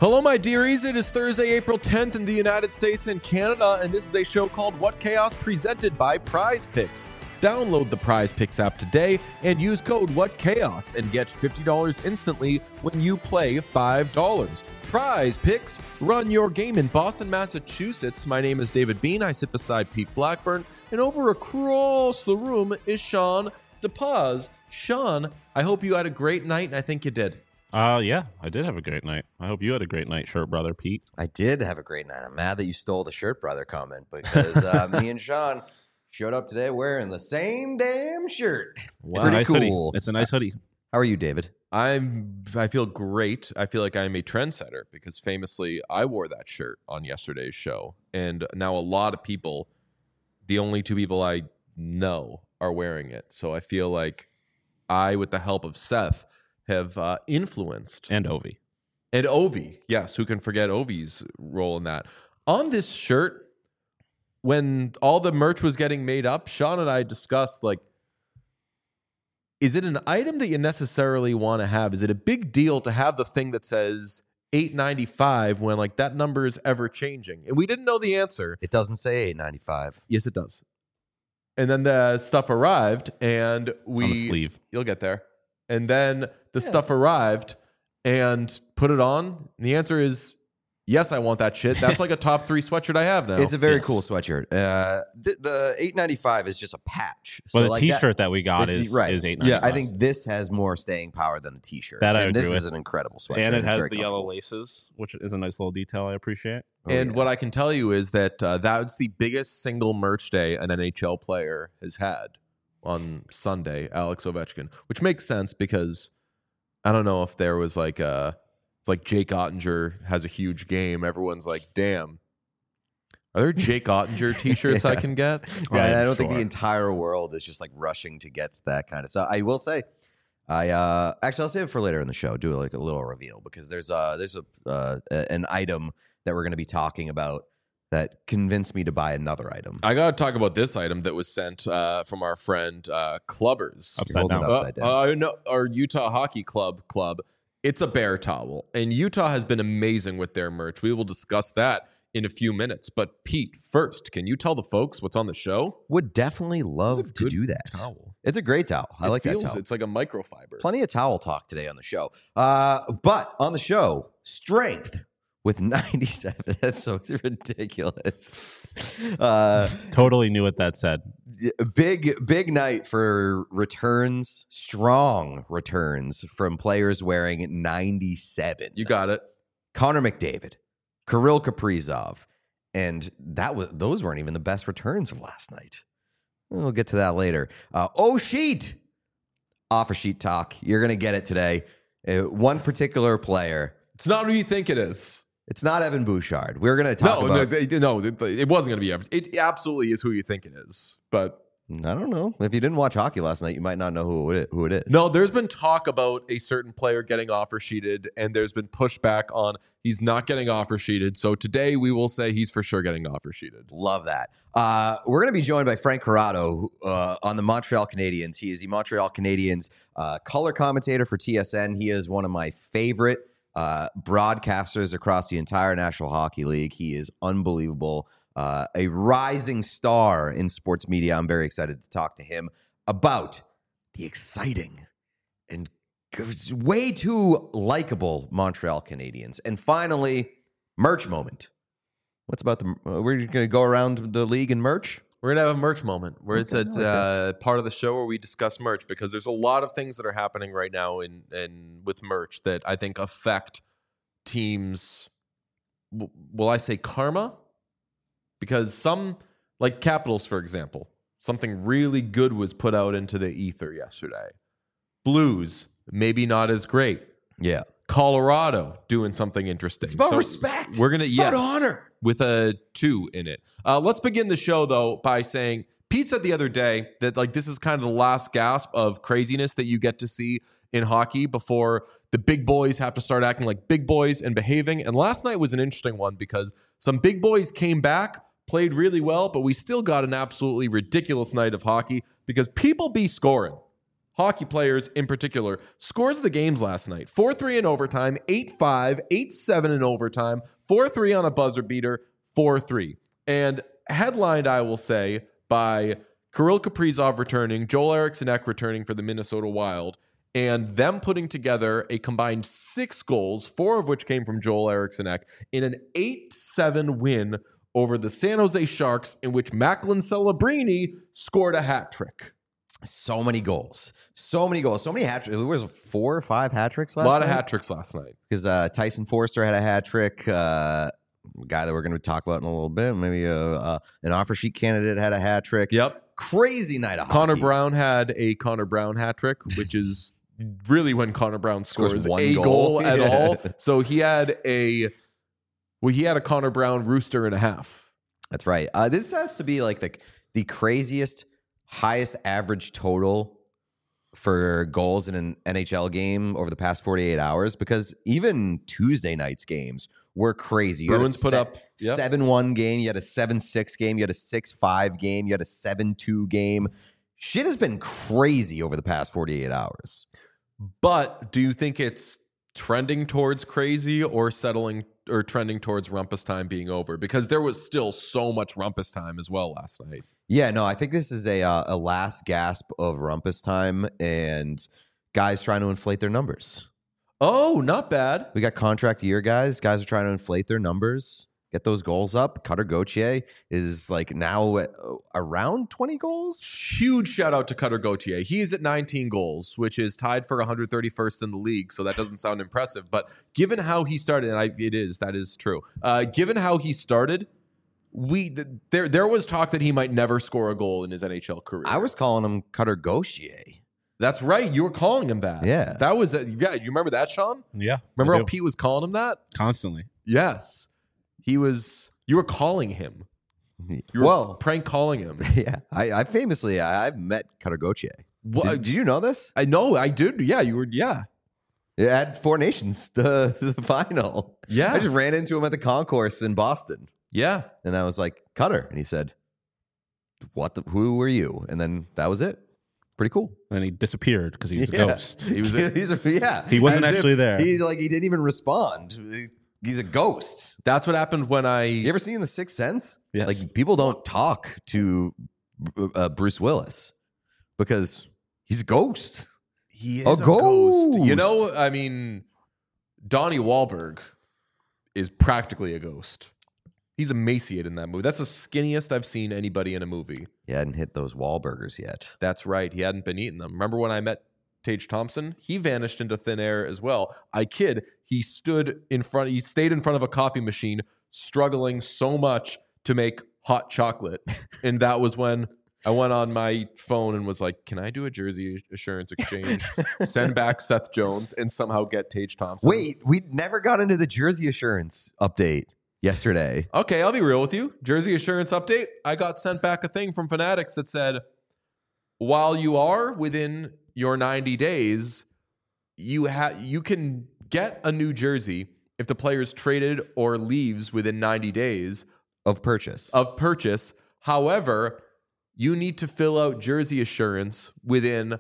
Hello, my dearies. It is Thursday, April 10th in the United States and Canada, and this is a show called What Chaos, presented by Prize Picks. Download the Prize Picks app today and use code WhatChaos and get $50 instantly when you play $5. Prize Picks, run your game in Boston, Massachusetts. My name is David Bean. I sit beside Pete Blackburn, and over across the room is Sean DePaz. Sean, I hope you had a great night, and I think you did. Yeah, I did have a great night. I hope you had a great night, Shirt Brother Pete. I did have a great night. I'm mad that you stole the Shirt Brother comment because me and Sean showed up today wearing the same damn shirt. Wow. Pretty nice cool. Hoodie. It's a nice hoodie. How are you, David? I feel great. I feel like I'm a trendsetter because famously I wore that shirt on yesterday's show. And now a lot of people, the only two people I know, are wearing it. So I feel like I, with the help of Seth, have influenced. And Ovi. And Ovi. Yes, who can forget Ovi's role in that? On this shirt, when all the merch was getting made up, Sean and I discussed, like, is it an item that you necessarily want to have? Is it a big deal to have the thing that says $8.95 when, like, that number is ever changing? And we didn't know the answer. It doesn't say $8.95. Yes, it does. And then the stuff arrived, and On the sleeve. You'll get there. And then the stuff arrived and put it on. And the answer is yes, I want that shit. That's like a top 3 sweatshirt I have now. It's a very Yes. cool sweatshirt. The $8.95 is just a patch. But So a like T-shirt that we got is $8.95. Yes. I think this has more staying power than the T-shirt. That I and agree this with. is an incredible sweatshirt. And it It's has very the yellow comfortable. laces, which is a nice little detail I appreciate. And yeah. what I can tell you is that that's the biggest single merch day an NHL player has had on Sunday, Alex Ovechkin, which makes sense because I don't know if there was like Jake Ottinger has a huge game. Everyone's like, damn, are there Jake Ottinger t-shirts I can get? Yeah, and I don't sure. think the entire world is just like rushing to get that kind of stuff. I will say, actually I'll save it for later in the show. Do like a little reveal because there's an item that we're going to be talking about that convinced me to buy another item. I got to talk about this item that was sent from our friend Clubbers. Upside Holding down. it upside down. No, our Utah Hockey Club. It's a bear towel. And Utah has been amazing with their merch. We will discuss that in a few minutes. But Pete, first, can you tell the folks what's on the show? Would definitely It's a love to good do that. towel. It's a great towel. I like that towel. It's like a microfiber. Plenty of towel talk today on the show. But on the show, strength with 97. That's so ridiculous. Totally knew what that said. Big night for returns, strong returns from players wearing 97. You got it. Connor McDavid, Kirill Kaprizov, and those weren't even the best returns of last night. We'll get to that later. Sheet offer sheet talk. You're gonna get it today. One particular player. It's not who you think it is. It's not Evan Bouchard. We're gonna talk about. No, it wasn't going to be Evan. It absolutely is who you think it is. But I don't know. If you didn't watch hockey last night, you might not know who it is. no, there's been talk about a certain player getting offer sheeted, and there's been pushback on he's not getting offer sheeted. So today we will say he's for sure getting offer sheeted. Love that. We're going to be joined by Frank Corrado on the Montreal Canadiens. He is the Montreal Canadiens color commentator for TSN. He is one of my favorite broadcasters across the entire National Hockey League. He is unbelievable. A rising star in sports media. I'm very excited to talk to him about the exciting and way too likable Montreal Canadiens. And finally, merch moment. What's about we're going to go around the league and merch? We're going to have a merch moment where it's Okay, I like part of the show where we discuss merch because there's a lot of things that are happening right now in with merch that I think affect teams. Will I say karma? Because some, like Capitals, for example, something really good was put out into the ether yesterday. Blues, maybe not as great. Yeah. Colorado doing something interesting. It's about respect. We're gonna It's about honor. with a 2 in it. Let's begin the show though by saying Pete said the other day that like this is kind of the last gasp of craziness that you get to see in hockey before the big boys have to start acting like big boys and behaving. And last night was an interesting one because some big boys came back, played really well, but we still got an absolutely ridiculous night of hockey because people be scoring. hockey players in particular. Scores of the games last night: 4-3 in overtime, 8-5, 8-7 in overtime, 4-3 on a buzzer beater, 4-3. And headlined, I will say, by Kirill Kaprizov returning, Joel Eriksson Ek returning for the Minnesota Wild, and them putting together a combined 6 goals, 4 of which came from Joel Eriksson Ek, in an 8-7 win over the San Jose Sharks, in which Macklin Celebrini scored a hat trick. So many goals. So many hat tricks. There was 4 or 5 hat tricks last night. A lot of hat tricks last night. Because Tyson Forster had a hat trick. A guy that we're going to talk about in a little bit. Maybe an offer sheet candidate had a hat trick. Yep. Crazy night of Connor hockey. Brown had a Connor Brown hat trick, which is really when Connor Brown scores one a goal. goal at Yeah. all. So he had a Connor Brown rooster and a half. That's right. This has to be like the craziest, highest average total for goals in an NHL game over the past 48 hours, because even Tuesday night's games were crazy. You Bruins had a put up 7-1 game. You had a 7-6 game. You had a 6-5 game. You had a 7-2 game. Shit has been crazy over the past 48 hours. But do you think it's trending towards crazy or settling or trending towards rumpus time being over? Because there was still so much rumpus time as well last night. Yeah, no, I think this is a last gasp of rumpus time and guys trying to inflate their numbers. Oh, not bad. We got contract year guys. Guys are trying to inflate their numbers, get those goals up. Cutter Gauthier is like now around 20 goals. Huge shout out to Cutter Gauthier. He is at 19 goals, which is tied for 131st in the league. So that doesn't sound impressive. But given how he started, and that is true. Given how he started, there was talk that he might never score a goal in his NHL career. I was calling him Cutter Gauthier. That's right. You were calling him that. Yeah. That was you remember that, Sean? Yeah. Remember I how do. Pete was calling him that? Constantly. Yes. You were calling him. You were prank calling him. Yeah, I've met Cutter Gauthier. What? Did you know this? I know, I did. Yeah, you were. Yeah. At Four Nations, the final. Yeah. I just ran into him at the concourse in Boston. Yeah. And I was like, Cutter. And he said, who were you? And then that was it. Pretty cool. And he disappeared because he was a ghost. He was. He wasn't As actually if there. He didn't even respond. He's a ghost. That's what happened when You ever seen The Sixth Sense? Yes. Like, people don't talk to Bruce Willis because he's a ghost. He is A a ghost. ghost. You know, I mean, Donnie Wahlberg is practically a ghost. He's emaciated in that movie. That's the skinniest I've seen anybody in a movie. He hadn't hit those Wahlburgers yet. That's right. He hadn't been eating them. Remember when I met Tage Thompson? He vanished into thin air as well. I kid. He stayed in front of a coffee machine, struggling so much to make hot chocolate. And that was when I went on my phone and was like, can I do a jersey assurance exchange? Send back Seth Jones and somehow get Tage Thompson. Wait, we never got into the jersey assurance update yesterday. Okay, I'll be real with you. Jersey assurance update. I got sent back a thing from Fanatics that said, while you are within your 90 days, you can get a new jersey if the player is traded or leaves within 90 days Of purchase. However, you need to fill out jersey assurance within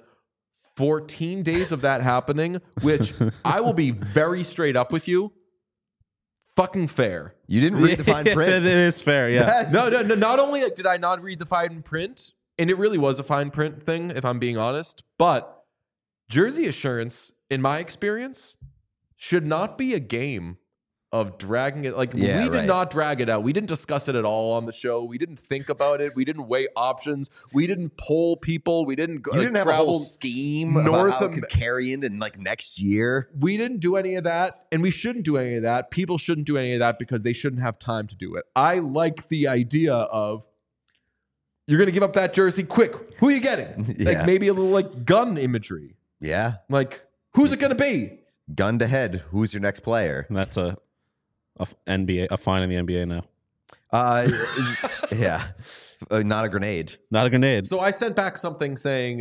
14 days of that happening, which I will be very straight up with you. Fucking fair. You didn't read the fine print. It is fair, yeah. No. Not only did I not read the fine print, and it really was a fine print thing, if I'm being honest, but jersey assurance, in my experience, should not be a game of dragging it. Like, we did not drag it out. We didn't discuss it at all on the show. We didn't think about it. We didn't weigh options. We didn't poll people. We didn't You didn't have a travel whole scheme north about how it of- could carry into like next year. We didn't do any of that, and we shouldn't do any of that. People shouldn't do any of that because they shouldn't have time to do it. I like the idea of, you're going to give up that jersey quick. Who are you getting? Yeah. Like, maybe a little like gun imagery. Yeah. Like, who's it going to be? Gun to head. Who's your next player? And that's a fine in the NBA now. Yeah. Not a grenade. Not a grenade. So I sent back something saying,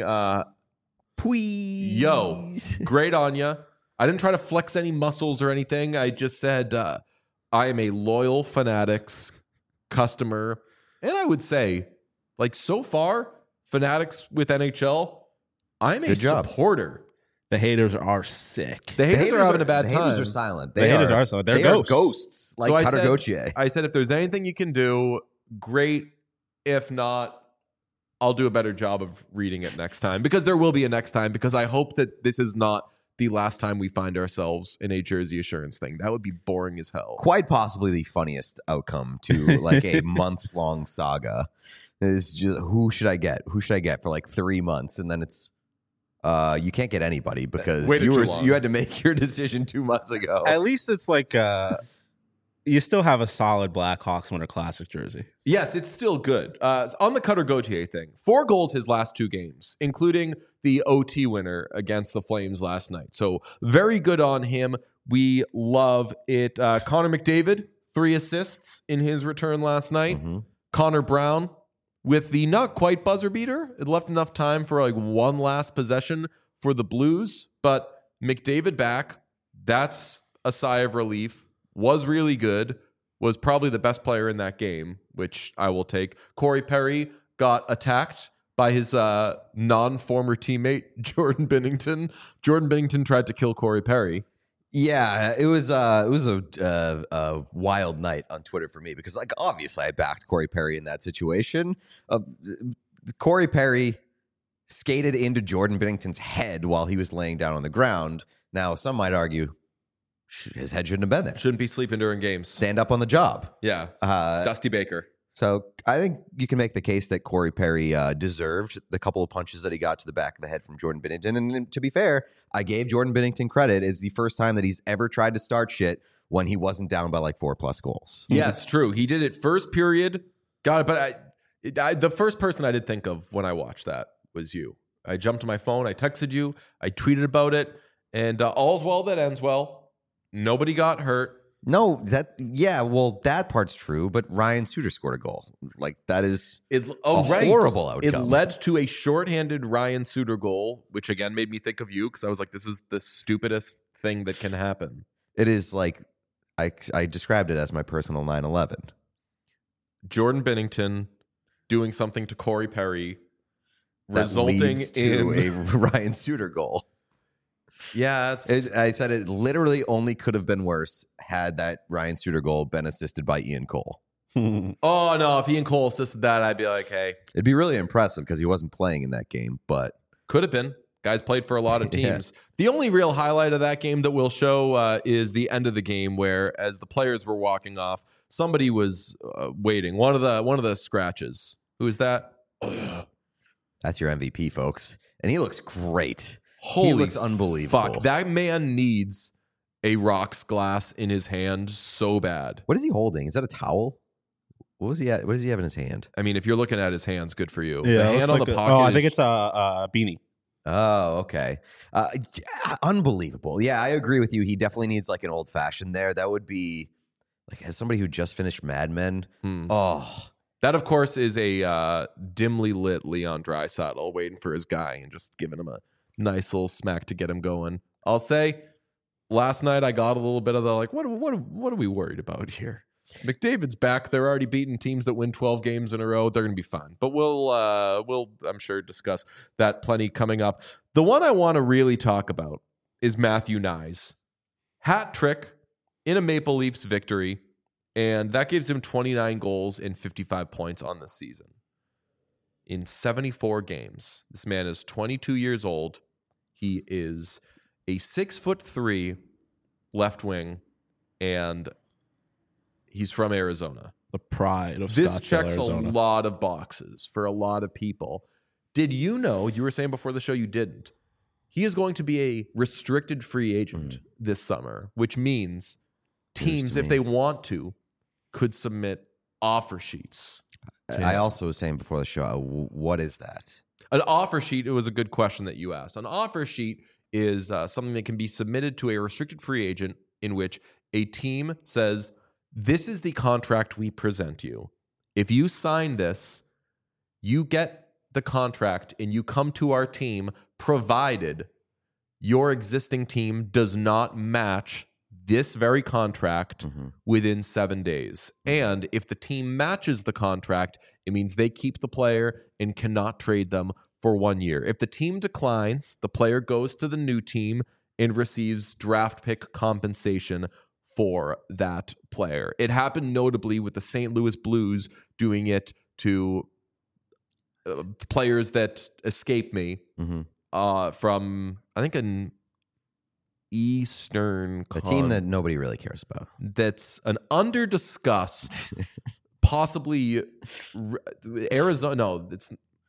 Please. yo, great on ya. I didn't try to flex any muscles or anything. I just said, I am a loyal Fanatics customer. And I would say, like, so far, Fanatics with NHL, I'm a Good job. supporter. The haters are sick. The haters are having a bad the time. haters are silent. The haters are silent. They're they ghosts. are ghosts, like So Cutter Gauthier. I said, if there's anything you can do, great. If not, I'll do a better job of reading it next time, because there will be a next time, because I hope that this is not the last time we find ourselves in a Jersey Assurance thing. That would be boring as hell. Quite possibly the funniest outcome to like a months-long saga. Is just who should I get? Who should I get for like 3 months? And then it's you can't get anybody because Waited too you long. had to make your decision 2 months ago. At least it's like you still have a solid Blackhawks Winter Classic jersey. Yes, it's still good. On the Cutter Gauthier thing, 4 goals his last 2 games, including the OT winner against the Flames last night. So very good on him. We love it. Connor McDavid, 3 assists in his return last night. Connor Brown with the not quite buzzer beater. It left enough time for like one last possession for the Blues, but McDavid back. That's a sigh of relief. Was really good. Was probably the best player in that game, which I will take. Corey Perry got attacked by his non-former teammate, Jordan Binnington. Jordan Binnington tried to kill Corey Perry. Yeah, it was a wild night on Twitter for me because, like, obviously I backed Corey Perry in that situation. Corey Perry skated into Jordan Binnington's head while he was laying down on the ground. Now, some might argue his head shouldn't have been there. Shouldn't be sleeping during games. Stand up on the job. Yeah, Dusty Baker. So I think you can make the case that Corey Perry deserved the couple of punches that he got to the back of the head from Jordan Binnington. And to be fair, I gave Jordan Binnington credit. It's the first time that he's ever tried to start shit when he wasn't down by like 4+ goals. Yes, true. He did it first period. Got it. But I the first person I did think of when I watched that was you. I jumped to my phone. I texted you. I tweeted about it. And all's well that ends well. Nobody got hurt. No, that part's true, but Ryan Suter scored a goal. Like, that is horrible outcome. It led to a shorthanded Ryan Suter goal, which again made me think of you because I was like, this is the stupidest thing that can happen. It is like, I described it as my personal 9/11. Jordan Binnington doing something to Corey Perry, That resulting leads to in a Ryan Suter goal. Yeah, I said it literally only could have been worse had that Ryan Suter goal been assisted by Ian Cole. Oh, no. If Ian Cole assisted that, I'd be like, hey. It'd be really impressive because he wasn't playing in that game, but Could have been. Guys played for a lot of Yeah. teams. The only real highlight of that game that we'll show is the end of the game where, as the players were walking off, somebody was waiting. One of the scratches. Who is that? that's your MVP, folks. And he looks great. Holy he looks unbelievable. Fuck, that man needs a rocks glass in his hand so bad. What is he holding? Is that a towel? What does he have in his hand? I mean, if you're looking at his hands, good for you. Yeah, the it hand looks on like the a- pocket. Oh, I think is- it's a beanie. Oh, okay. Unbelievable. Yeah, I agree with you. He definitely needs like an old fashioned there. That would be like, as somebody who just finished Mad Men. Oh, That, of course, is a dimly lit Leon Draisaitl waiting for his guy and just giving him a nice little smack to get him going. I'll say, last night I got a little bit of the like, what are we worried about here? McDavid's back. They're already beating teams that win 12 games in a row. They're going to be fine. But we'll I'm sure discuss that plenty coming up. The one I want to really talk about is Matthew Nyes. Hat trick in a Maple Leafs victory. And that gives him 29 goals and 55 points on the season. In 74 games. This man is 22 years old. He is a 6'3" left wing, and he's from Arizona. The pride of This Scottsdale, checks Arizona. a lot of boxes for a lot of people. Did you know, you were saying before the show you didn't, he is going to be a restricted free agent this summer, which means teams, to if me. they want to, could submit offer sheets. I also was saying before the show, what is that? An offer sheet, it was a good question that you asked. An offer sheet is something that can be submitted to a restricted free agent in which a team says, this is the contract we present you. If you sign this, you get the contract and you come to our team provided your existing team does not match this very contract within 7 days. And if the team matches the contract, it means they keep the player and cannot trade them for 1 year. If the team declines, the player goes to the new team and receives draft pick compensation for that player. It happened notably with the St. Louis Blues doing it to players that escape me from, I think, an Eastern a team that nobody really cares about. That's an under-discussed, possibly Arizona. No, it's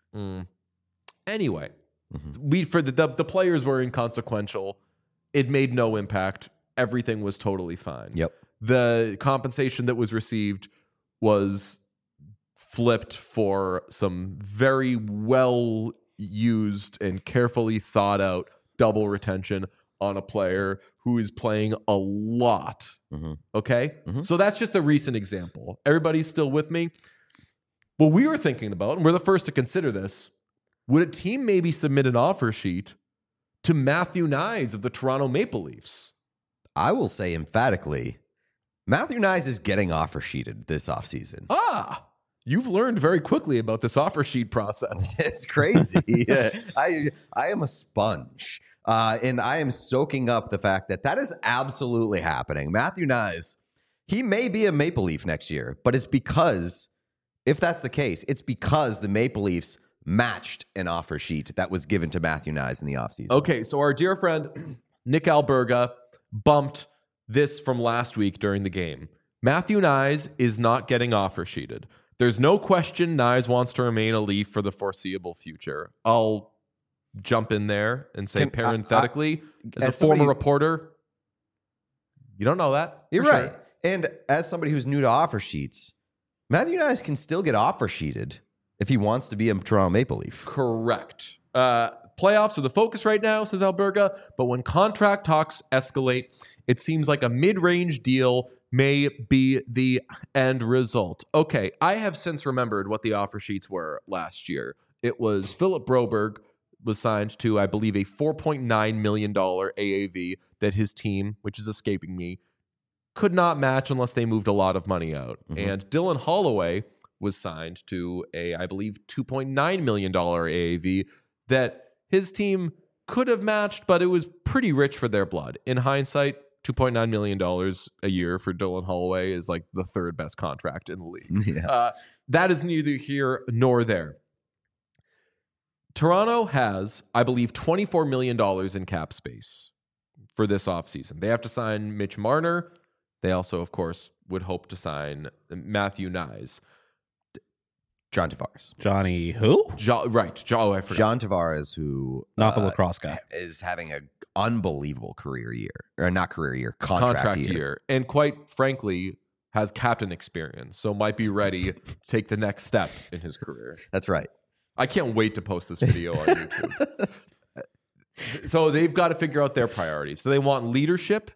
anyway. For the players were inconsequential. It made no impact. Everything was totally fine. Yep. The compensation that was received was flipped for some very well used and carefully thought out double retention on a player who is playing a lot. Okay? So that's just a recent example. Everybody's still with me? What we were thinking about, and we're the first to consider this, would a team maybe submit an offer sheet to Matthew Knies of the Toronto Maple Leafs? I will say emphatically, Matthew Knies is getting offer sheeted this offseason. You've learned very quickly about this offer sheet process. It's crazy. Yeah. I am a sponge. And I am soaking up the fact that is absolutely happening. Matthew Knies, he may be a Maple Leaf next year, but it's because, if that's the case, it's because the Maple Leafs matched an offer sheet that was given to Matthew Knies in the offseason. Okay, so our dear friend Nick Alberga bumped this from last week during the game. Matthew Knies is not getting offer sheeted. There's no question Knies wants to remain a Leaf for the foreseeable future. I'll jump in there and say parenthetically, as a former reporter, you don't know that. You're right. Sure. And as somebody who's new to offer sheets, Matthew Knies can still get offer sheeted if he wants to be a Toronto Maple Leaf. Correct. Playoffs are the focus right now, says Alberga, but when contract talks escalate, it seems like a mid-range deal may be the end result. Okay, I have since remembered what the offer sheets were last year. It was Philip Broberg was signed to, I believe, a $4.9 million AAV that his team, which is escaping me, could not match unless they moved a lot of money out. And Dylan Holloway was signed to a, I believe, $2.9 million AAV that his team could have matched, but it was pretty rich for their blood. In hindsight, $2.9 million a year for Dylan Holloway is like the third best contract in the league. Yeah. That is neither here nor there. Toronto has, I believe, $24 million in cap space for this offseason. They have to sign Mitch Marner. They also, of course, would hope to sign Matthew Knies. John Tavares. Johnny who? Right. I forgot. John Tavares, who... Not the lacrosse guy. ...is having an unbelievable career year. Or not career year, contract year. And quite frankly, has captain experience. So might be ready to take the next step in his career. That's right. I can't wait to post this video on YouTube. So they've got to figure out their priorities. So they want leadership.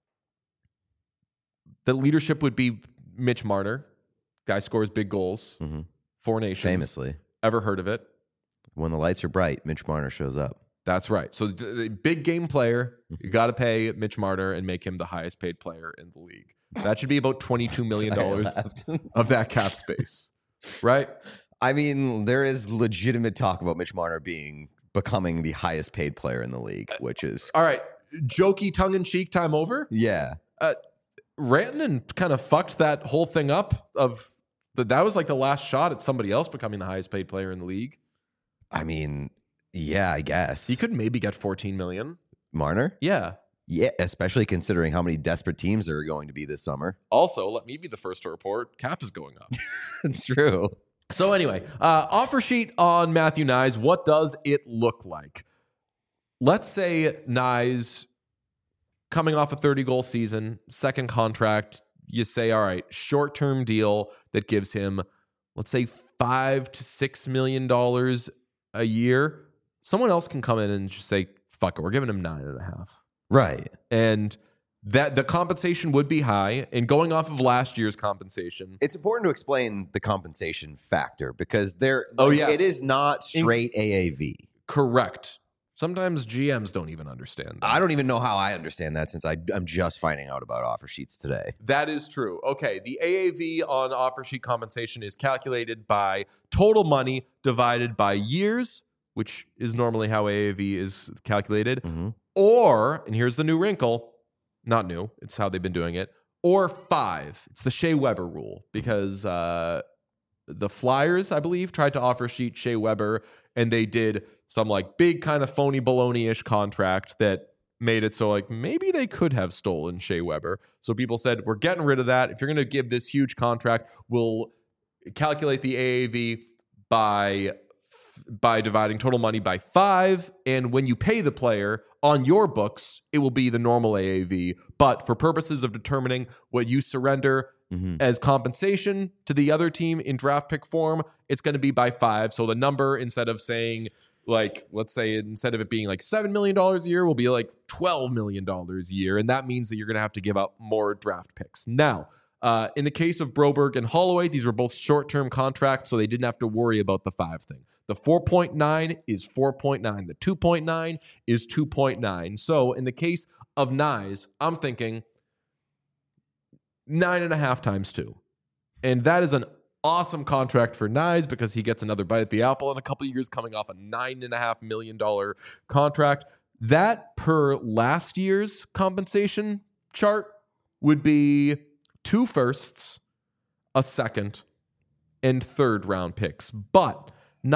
The leadership would be Mitch Marner. Guy scores big goals. Four Nations. Famously. Ever heard of it? When the lights are bright, Mitch Marner shows up. That's right. So the big game player, you got to pay Mitch Marner and make him the highest paid player in the league. That should be about $22 million of that cap space. Right? I mean, there is legitimate talk about Mitch Marner becoming the highest paid player in the league, which is... All right. Jokey tongue-in-cheek time over? Yeah. Rantanen kind of fucked that whole thing up that was like the last shot at somebody else becoming the highest paid player in the league. I mean, yeah, I guess. He could maybe get $14 million. Marner? Yeah. Yeah, especially considering how many desperate teams there are going to be this summer. Also, let me be the first to report, cap is going up. It's true. So anyway, offer sheet on Matthew Knies. What does it look like? Let's say Knies, coming off a 30-goal season, second contract, you say, all right, short-term deal that gives him, let's say, $5 to $6 million a year. Someone else can come in and just say, fuck it, we're giving him 9.5. Right. And that the compensation would be high. And going off of last year's compensation, it's important to explain the compensation factor because yes. It is not straight AAV. Correct. Sometimes GMs don't even understand that. I don't even know how I understand that since I'm just finding out about offer sheets today. That is true. Okay, the AAV on offer sheet compensation is calculated by total money divided by years which is normally how AAV is calculated, Mhm. or, and here's the new wrinkle, not new, it's how they've been doing it, or 5. It's the Shea Weber rule because the Flyers, I believe, tried to offer sheet Shea Weber, and they did some like big kind of phony baloney-ish contract that made it so like maybe they could have stolen Shea Weber. So people said, we're getting rid of that. If you're going to give this huge contract, we'll calculate the AAV by dividing total money by 5. And when you pay the player on your books, it will be the normal AAV. But for purposes of determining what you surrender as compensation to the other team in draft pick form, it's going to be by 5. So the number, instead of saying like, let's say instead of it being like $7 million a year, will be like $12 million a year. And that means that you're going to have to give up more draft picks. Now, in the case of Broberg and Holloway, these were both short-term contracts, so they didn't have to worry about the 5 thing. The 4.9 is 4.9. The 2.9 is 2.9. So in the case of Nyes, I'm thinking 9.5 times 2. And that is an awesome contract for Nyes because he gets another bite at the apple in a couple of years coming off a $9.5 million contract. That per last year's compensation chart would be 2 firsts, a second, and third round picks. But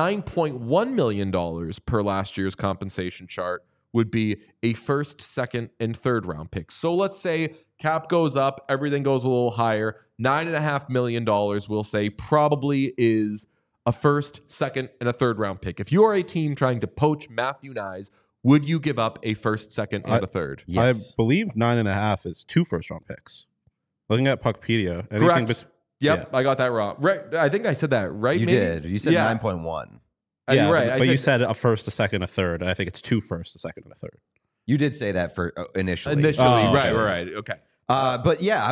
$9.1 million per last year's compensation chart would be a first, second, and third round pick. So let's say cap goes up, everything goes a little higher. $9.5 million, we'll say, probably is a first, second, and a third round pick. If you are a team trying to poach Matthew Nyes, would you give up a first, second, and a third? Yes. I believe 9.5 is 2 first round picks. Looking at Puckpedia. Correct. Yep, I got that wrong. Right, I think I said that right. You maybe? did. You said 9.1. Yeah, you're right. But you said a first, a second, a third. I think it's 2 firsts, a second, and a third. You did say that for initially. Right. Okay. But yeah,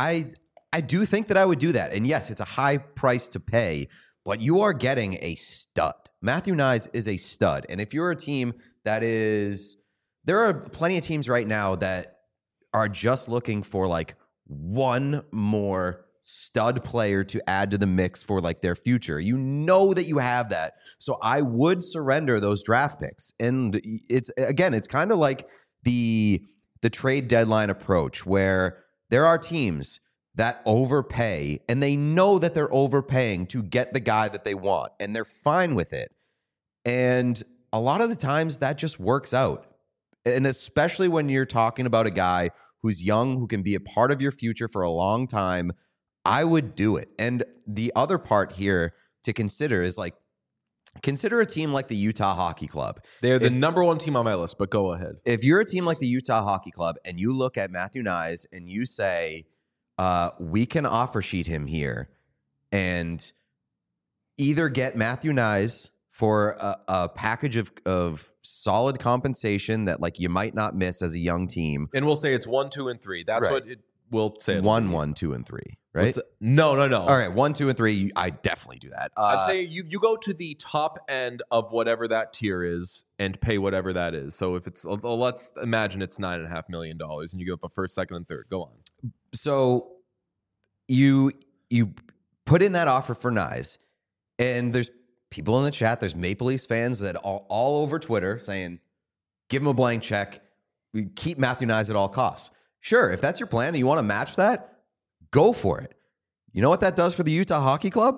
I do think that I would do that. And yes, it's a high price to pay, but you are getting a stud. Matthew Nyes is a stud. And if you're a team that is, there are plenty of teams right now that are just looking for like one more stud player to add to the mix for like their future. You know that you have that. So I would surrender those draft picks. And it's kind of like the trade deadline approach where there are teams that overpay and they know that they're overpaying to get the guy that they want and they're fine with it. And a lot of the times that just works out. And especially when you're talking about a guy who's young, who can be a part of your future for a long time, I would do it. And the other part here to consider is like, consider a team like the Utah Hockey Club. They're the number 1 team on my list, but go ahead. If you're a team like the Utah Hockey Club and you look at Matthew Nyes and you say, we can offer sheet him here and either get Matthew Nyes for a package of solid compensation that like you might not miss as a young team. And we'll say it's 1, 2, and 3. That's what it will say. 1, 2, and 3, right? No. All right, 1, 2, and 3. I definitely do that. I'd say you go to the top end of whatever that tier is and pay whatever that is. So if it's, let's imagine it's $9.5 million and you give up a first, second, and third. Go on. So you put in that offer for Nyes, and there's people in the chat, there's Maple Leafs fans that all over Twitter saying, give him a blank check. We keep Matthew Nyes at all costs. Sure, if that's your plan and you want to match that, go for it. You know what that does for the Utah Hockey Club?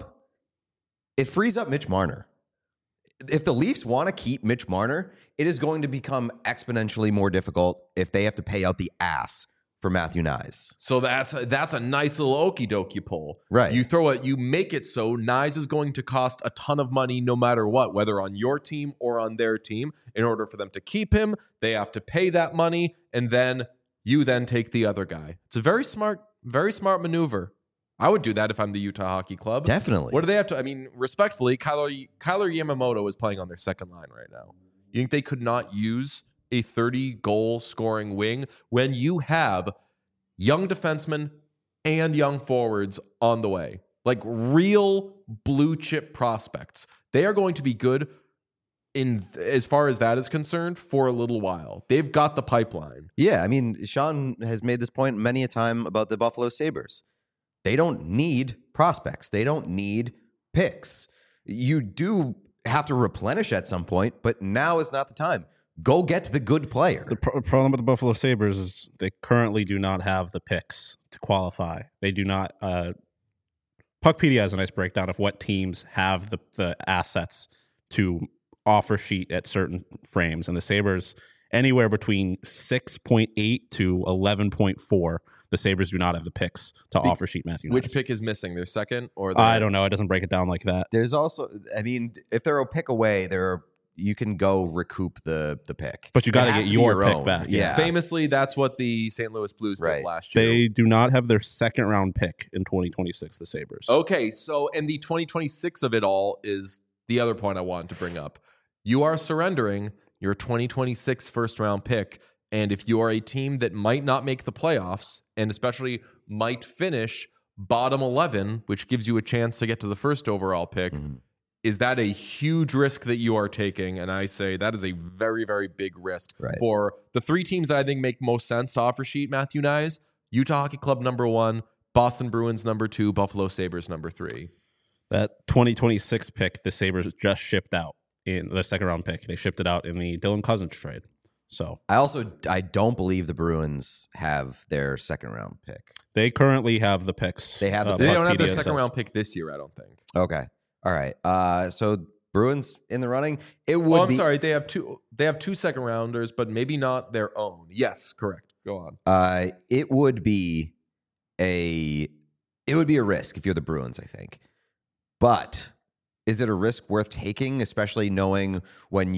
It frees up Mitch Marner. If the Leafs want to keep Mitch Marner, it is going to become exponentially more difficult if they have to pay out the ass for Matthew Nyes. So that's a nice little okie dokie pull. Right. You make it so Nyes is going to cost a ton of money no matter what, whether on your team or on their team. In order for them to keep him, they have to pay that money, and then you then take the other guy. It's a very smart maneuver. I would do that if I'm the Utah Hockey Club. Definitely. What do they have to? I mean, respectfully, Kyler Yamamoto is playing on their second line right now. You think they could not use a 30-goal scoring wing when you have young defensemen and young forwards on the way? Like real blue chip prospects. They are going to be good in as far as that is concerned for a little while. They've got the pipeline. Yeah, I mean, Sean has made this point many a time about the Buffalo Sabres. They don't need prospects. They don't need picks. You do have to replenish at some point, but now is not the time. Go get the good player. The problem with the Buffalo Sabres is they currently do not have the picks to qualify. They do not. Puckpedia has a nice breakdown of what teams have the assets to offer sheet at certain frames, and the Sabres anywhere between 6.8 to 11.4. The Sabres do not have the picks to offer sheet Matthew Knies. Which pick is missing? Their second or I don't know. It doesn't break it down like that. There's also, I mean, if they're a pick away, you can go recoup the pick. But you got to get your pick own. back. Yeah. Famously, that's what the St. Louis Blues did last year. They do not have their second round pick in 2026, the Sabres. Okay, so and the 2026 of it all is the other point I wanted to bring up. You are surrendering your 2026 first round pick. And if you are a team that might not make the playoffs, and especially might finish bottom 11, which gives you a chance to get to the first overall pick, is that a huge risk that you are taking? And I say that is a very, very big risk for the three teams that I think make most sense to offer sheet Matthew Knies: Utah Hockey Club number 1, Boston Bruins number 2, Buffalo Sabres number 3. That 2026 pick, the Sabres just shipped out in the second round pick. They shipped it out in the Dylan Cousins trade. So I don't believe the Bruins have their second round pick. They currently have the picks. They have They don't have their second round pick this year, I don't think. Okay. All right. So Bruins in the running. It would. I'm sorry. They have two second rounders, but maybe not their own. Yes, correct. Go on. It would be a risk if you're the Bruins, I think. But is it a risk worth taking, especially knowing when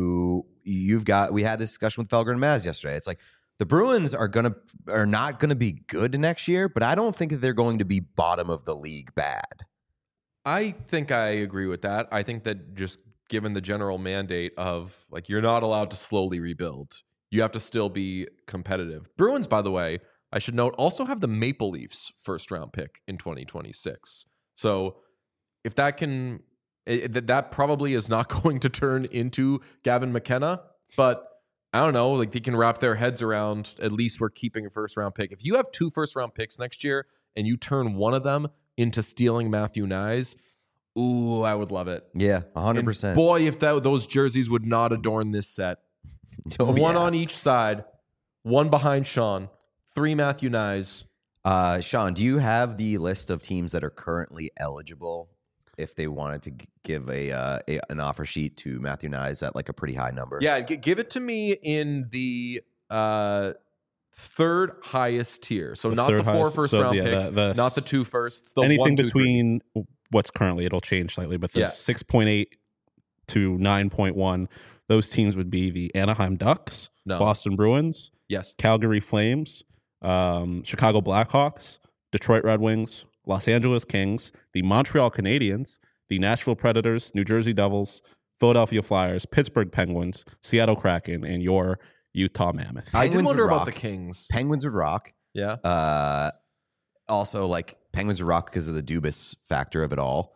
we had this discussion with Felger and Maz yesterday. It's like the Bruins are not gonna be good next year, but I don't think that they're going to be bottom of the league bad. I think I agree with that. I think that just given the general mandate of like you're not allowed to slowly rebuild, you have to still be competitive. Bruins, by the way, I should note, also have the Maple Leafs first round pick in 2026. So if that can. That probably is not going to turn into Gavin McKenna, but I don't know. Like they can wrap their heads around. At least we're keeping a first round pick. If you have 2 first round picks next year and you turn one of them into stealing Matthew Knies, ooh, I would love it. Yeah, 100%. Boy, if those jerseys would not adorn this set. One on each side, one behind Sean, 3 Matthew Knies. Sean, do you have the list of teams that are currently eligible if they wanted to give an offer sheet to Matthew Knies at like a pretty high number? Yeah, give it to me in the third highest tier. So not the 4 first round picks, not the 2 firsts. The anything 1, 2, between what's currently, it'll change slightly, but the 6.8 to 9.1, those teams would be the Anaheim Ducks, Boston Bruins, Calgary Flames, Chicago Blackhawks, Detroit Red Wings, Los Angeles Kings, the Montreal Canadiens, the Nashville Predators, New Jersey Devils, Philadelphia Flyers, Pittsburgh Penguins, Seattle Kraken, and your Utah Mammoth. I did wonder about the Kings. Penguins would rock. Yeah. Also, like Penguins would rock because of the Dubas factor of it all.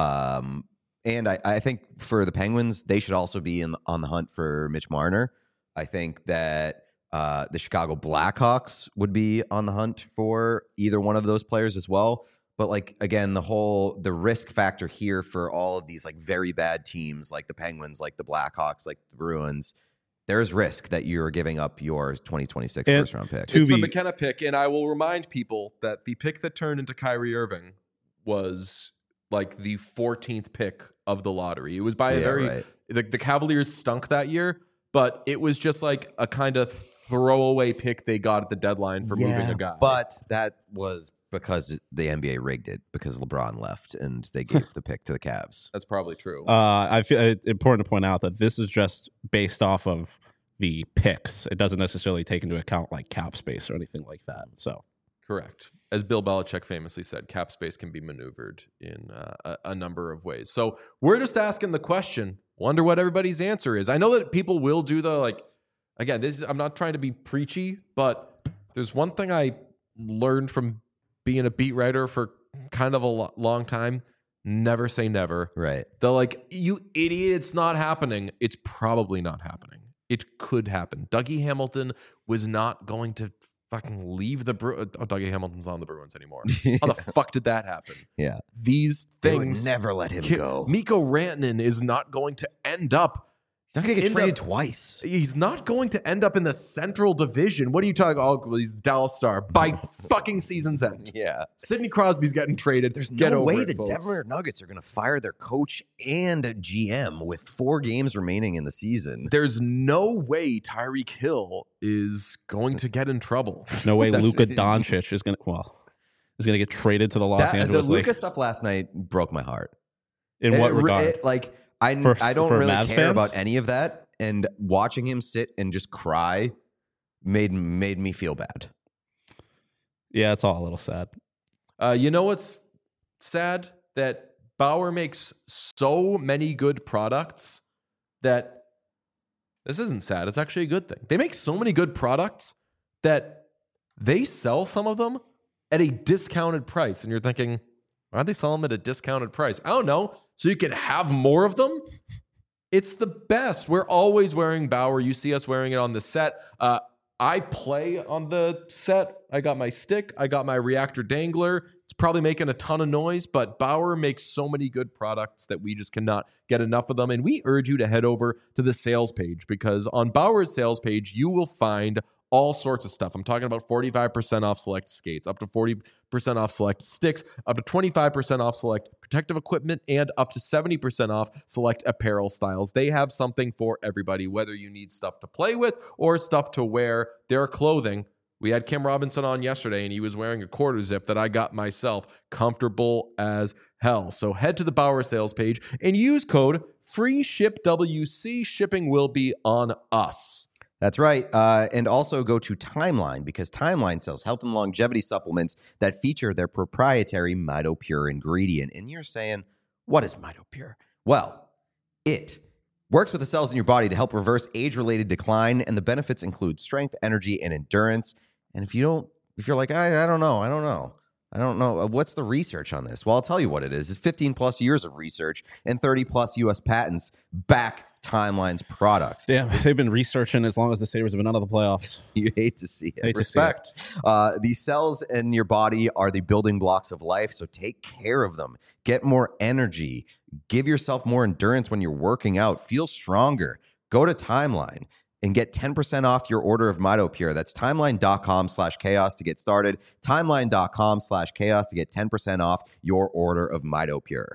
And I think for the Penguins, they should also be on the hunt for Mitch Marner. I think that the Chicago Blackhawks would be on the hunt for either one of those players as well. But like, again, the risk factor here for all of these like very bad teams, like the Penguins, like the Blackhawks, like the Bruins, there's risk that you're giving up your 2026 first round pick. It's the McKenna pick. And I will remind people that the pick that turned into Kyrie Irving was like the 14th pick of the lottery. It was by the Cavaliers stunk that year, but it was just like a kind of throwaway pick they got at the dedeadline for moving a guy. But that was because the NBA rigged it because LeBron left and they gave the pick to the Cavs. That's probably true. I feel it's important to point out that this is just based off of the picks. It doesn't necessarily take into account like cap space or anything like that. So correct. As Bill Belichick famously said, cap space can be maneuvered in a number of ways. So we're just asking the question. Wonder what everybody's answer is. I know that people will do the like. Again, I'm not trying to be preachy, but there's one thing I learned from being a beat writer for kind of a long time. Never say never. Right. They're like, you idiot, it's not happening. It's probably not happening. It could happen. Dougie Hamilton was not going to fucking leave the Dougie Hamilton's on the Bruins anymore. How the fuck did that happen? Yeah. These things. They would never let him go. Mikko Rantanen is not going to end up. He's not going to get traded twice. He's not going to end up in the Central Division. What are you talking about? Oh, he's Dallas Star by fucking season's end. Yeah. Sidney Crosby's getting traded. There's no way the Denver Nuggets are going to fire their coach and GM with 4 games remaining in the season. There's no way Tyreek Hill is going to get in trouble. No way Luka Doncic is going to get traded to the Los Angeles The Luka Lakers. stuff last night broke my heart. In what regard? I don't really Mavs care fans? about any of that, and watching him sit and just cry made me feel bad. Yeah, it's all a little sad. You know what's sad? That Bauer makes so many good products that this isn't sad. It's actually a good thing. They make so many good products that they sell some of them at a discounted price, and you're thinking, why do they sell them at a discounted price? I don't know. So you can have more of them? It's the best. We're always wearing Bauer. You see us wearing it on the set. I play on the set. I got my stick. I got my reactor dangler. It's probably making a ton of noise, but Bauer makes so many good products that we just cannot get enough of them. And we urge you to head over to the sales page, because on Bauer's sales page, you will find all sorts of stuff. I'm talking about 45% off select skates, up to 40% off select sticks, up to 25% off select protective equipment, and up to 70% off select apparel styles. They have something for everybody, whether you need stuff to play with or stuff to wear. Their clothing. We had Kim Robinson on yesterday, and he was wearing a quarter zip that I got myself. Comfortable as hell. So head to the Bauer sales page and use code FREESHIPWC. Shipping will be on us. That's right. And also go to Timeline, because Timeline sells health and longevity supplements that feature their proprietary MitoPure ingredient. And you're saying, what is MitoPure? Well, it works with the cells in your body to help reverse age-related decline, and the benefits include strength, energy, and endurance. And if you're like, I don't know, what's the research on this? Well, I'll tell you what it is. It's 15 plus years of research and 30 plus U.S. patents back Timeline's products. Damn, they've been researching as long as the Sabres have been out of the playoffs. You hate to see it. Respect. These cells in your body are the building blocks of life, so take care of them. Get more energy. Give yourself more endurance when you're working out. Feel stronger. Go to Timeline and get 10% off your order of MitoPure. That's timeline.com/chaos to get started. Timeline.com/chaos to get 10% off your order of MitoPure.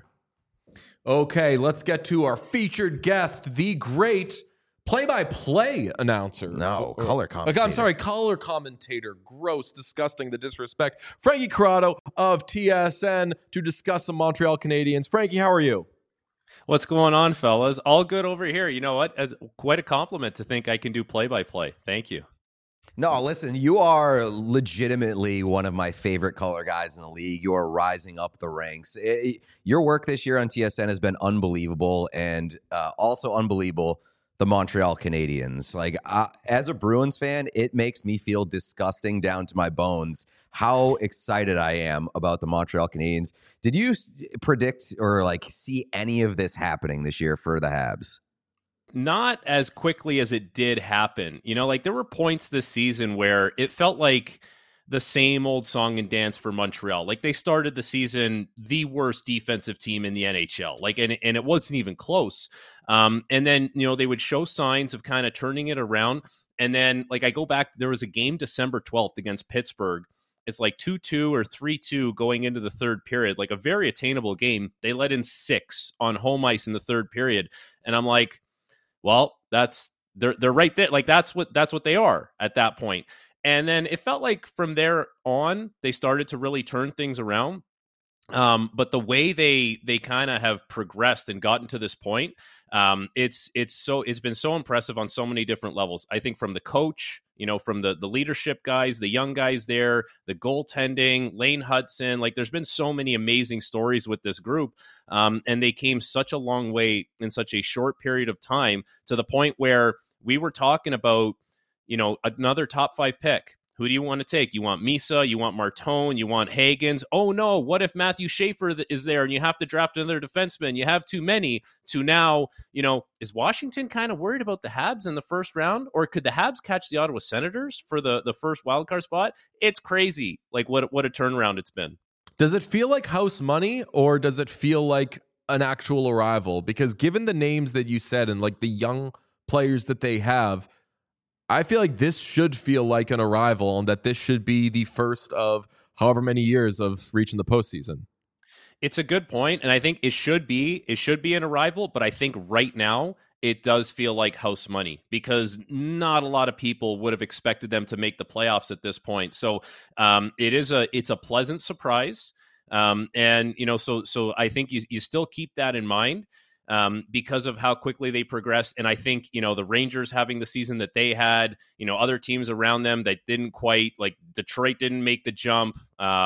Okay, let's get to our featured guest, the great play-by-play announcer. No, color commentator. I'm sorry, color commentator. Gross, disgusting, the disrespect. Frankie Corrado of TSN to discuss some Montreal Canadiens. Frankie, how are you? What's going on, fellas? All good over here. You know what? Quite a compliment to think I can do play-by-play. Thank you. No, listen, you are legitimately one of my favorite color guys in the league. You are rising up the ranks. Your work this year on TSN has been unbelievable, and also unbelievable, the Montreal Canadiens. Like, as a Bruins fan, it makes me feel disgusting down to my bones how excited I am about the Montreal Canadiens. Did you predict or see any of this happening this year for the Habs? Not as quickly as it did happen. You know, there were points this season where it felt like the same old song and dance for Montreal. They started the season the worst defensive team in the NHL. And it wasn't even close. And then, they would show signs of kind of turning it around. And then, I go back, there was a game December 12th against Pittsburgh. It's 2-2 or 3-2 going into the third period, a very attainable game. They let in 6 on home ice in the third period. And I'm like, well, they're right there. That's what they are at that point. And then it felt like from there on, they started to really turn things around. But the way they kind of have progressed and gotten to this point, it's been so impressive on so many different levels. I think from the coach, from the leadership guys, the young guys there, the goaltending, Lane Hudson, there's been so many amazing stories with this group. And they came such a long way in such a short period of time, to the point where we were talking about, another top 5 pick. Who do you want to take? You want Misa, you want Martone, you want Hagens. Oh no, what if Matthew Schaefer is there and you have to draft another defenseman? You have too many. To now, is Washington kind of worried about the Habs in the first round? Or could the Habs catch the Ottawa Senators for the first wildcard spot? It's crazy, like what a turnaround it's been. Does it feel like house money, or does it feel like an actual arrival? Because given the names that you said and like the young players that they have, I feel like this should feel like an arrival, and that this should be the first of however many years of reaching the postseason. It's a good point, and I think it should be an arrival, but I think right now it does feel like house money because not a lot of people would have expected them to make the playoffs at this point. So it's a pleasant surprise, and so I think you still keep that in mind. Because of how quickly they progressed. And I think, the Rangers having the season that they had, other teams around them that didn't quite, like Detroit didn't make the jump.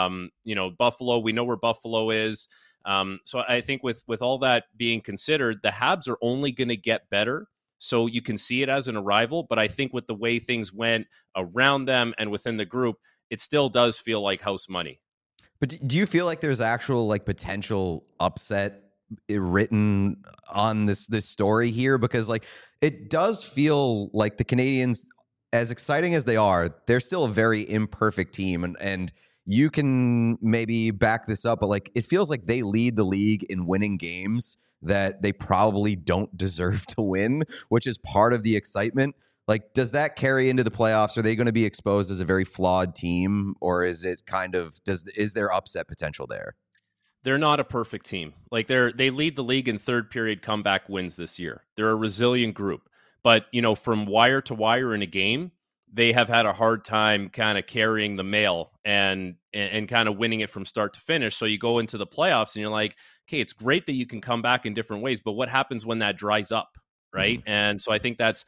Buffalo, we know where Buffalo is. So I think with all that being considered, the Habs are only going to get better. So you can see it as an arrival. But I think with the way things went around them and within the group, it still does feel like house money. But do you feel like there's actual like potential upset written on this story here? Because like it does feel like the Canadiens, as exciting as they are, they're still a very imperfect team, and you can maybe back this up, but like it feels like they lead the league in winning games that they probably don't deserve to win, which is part of the excitement. Like, does that carry into the playoffs? Are they going to be exposed as a very flawed team, or is it is there upset potential there? They're not a perfect team. Like they lead the league in third period comeback wins this year. They're a resilient group, but from wire to wire in a game, they have had a hard time kind of carrying the mail and kind of winning it from start to finish. So you go into the playoffs and you're like, okay, it's great that you can come back in different ways, but what happens when that dries up, right? Mm-hmm. And so I think that's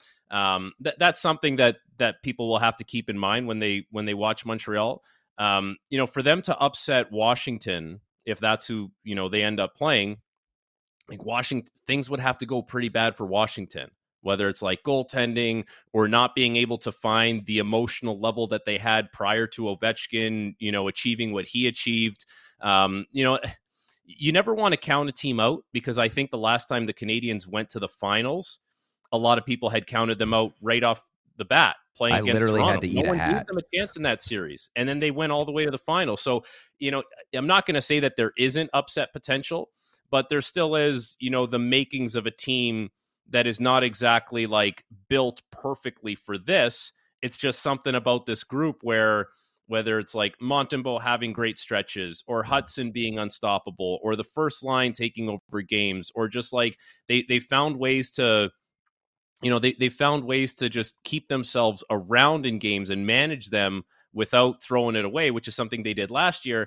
something that people will have to keep in mind when they watch Montreal. For them to upset Washington, if that's who, they end up playing, like Washington, things would have to go pretty bad for Washington, whether it's like goaltending or not being able to find the emotional level that they had prior to Ovechkin, achieving what he achieved. You never want to count a team out, because I think the last time the Canadiens went to the finals, a lot of people had counted them out right off the bat. Playing against literally Toronto. Had to eat no one a hat. gave them a chance in that series, and then they went all the way to the final. So, I'm not going to say that there isn't upset potential, but there still is, the makings of a team that is not exactly like built perfectly for this. It's just something about this group where, whether it's like Montembeault having great stretches, or Hudson being unstoppable, or the first line taking over games, or just like they found ways to. They found ways to just keep themselves around in games and manage them without throwing it away, which is something they did last year.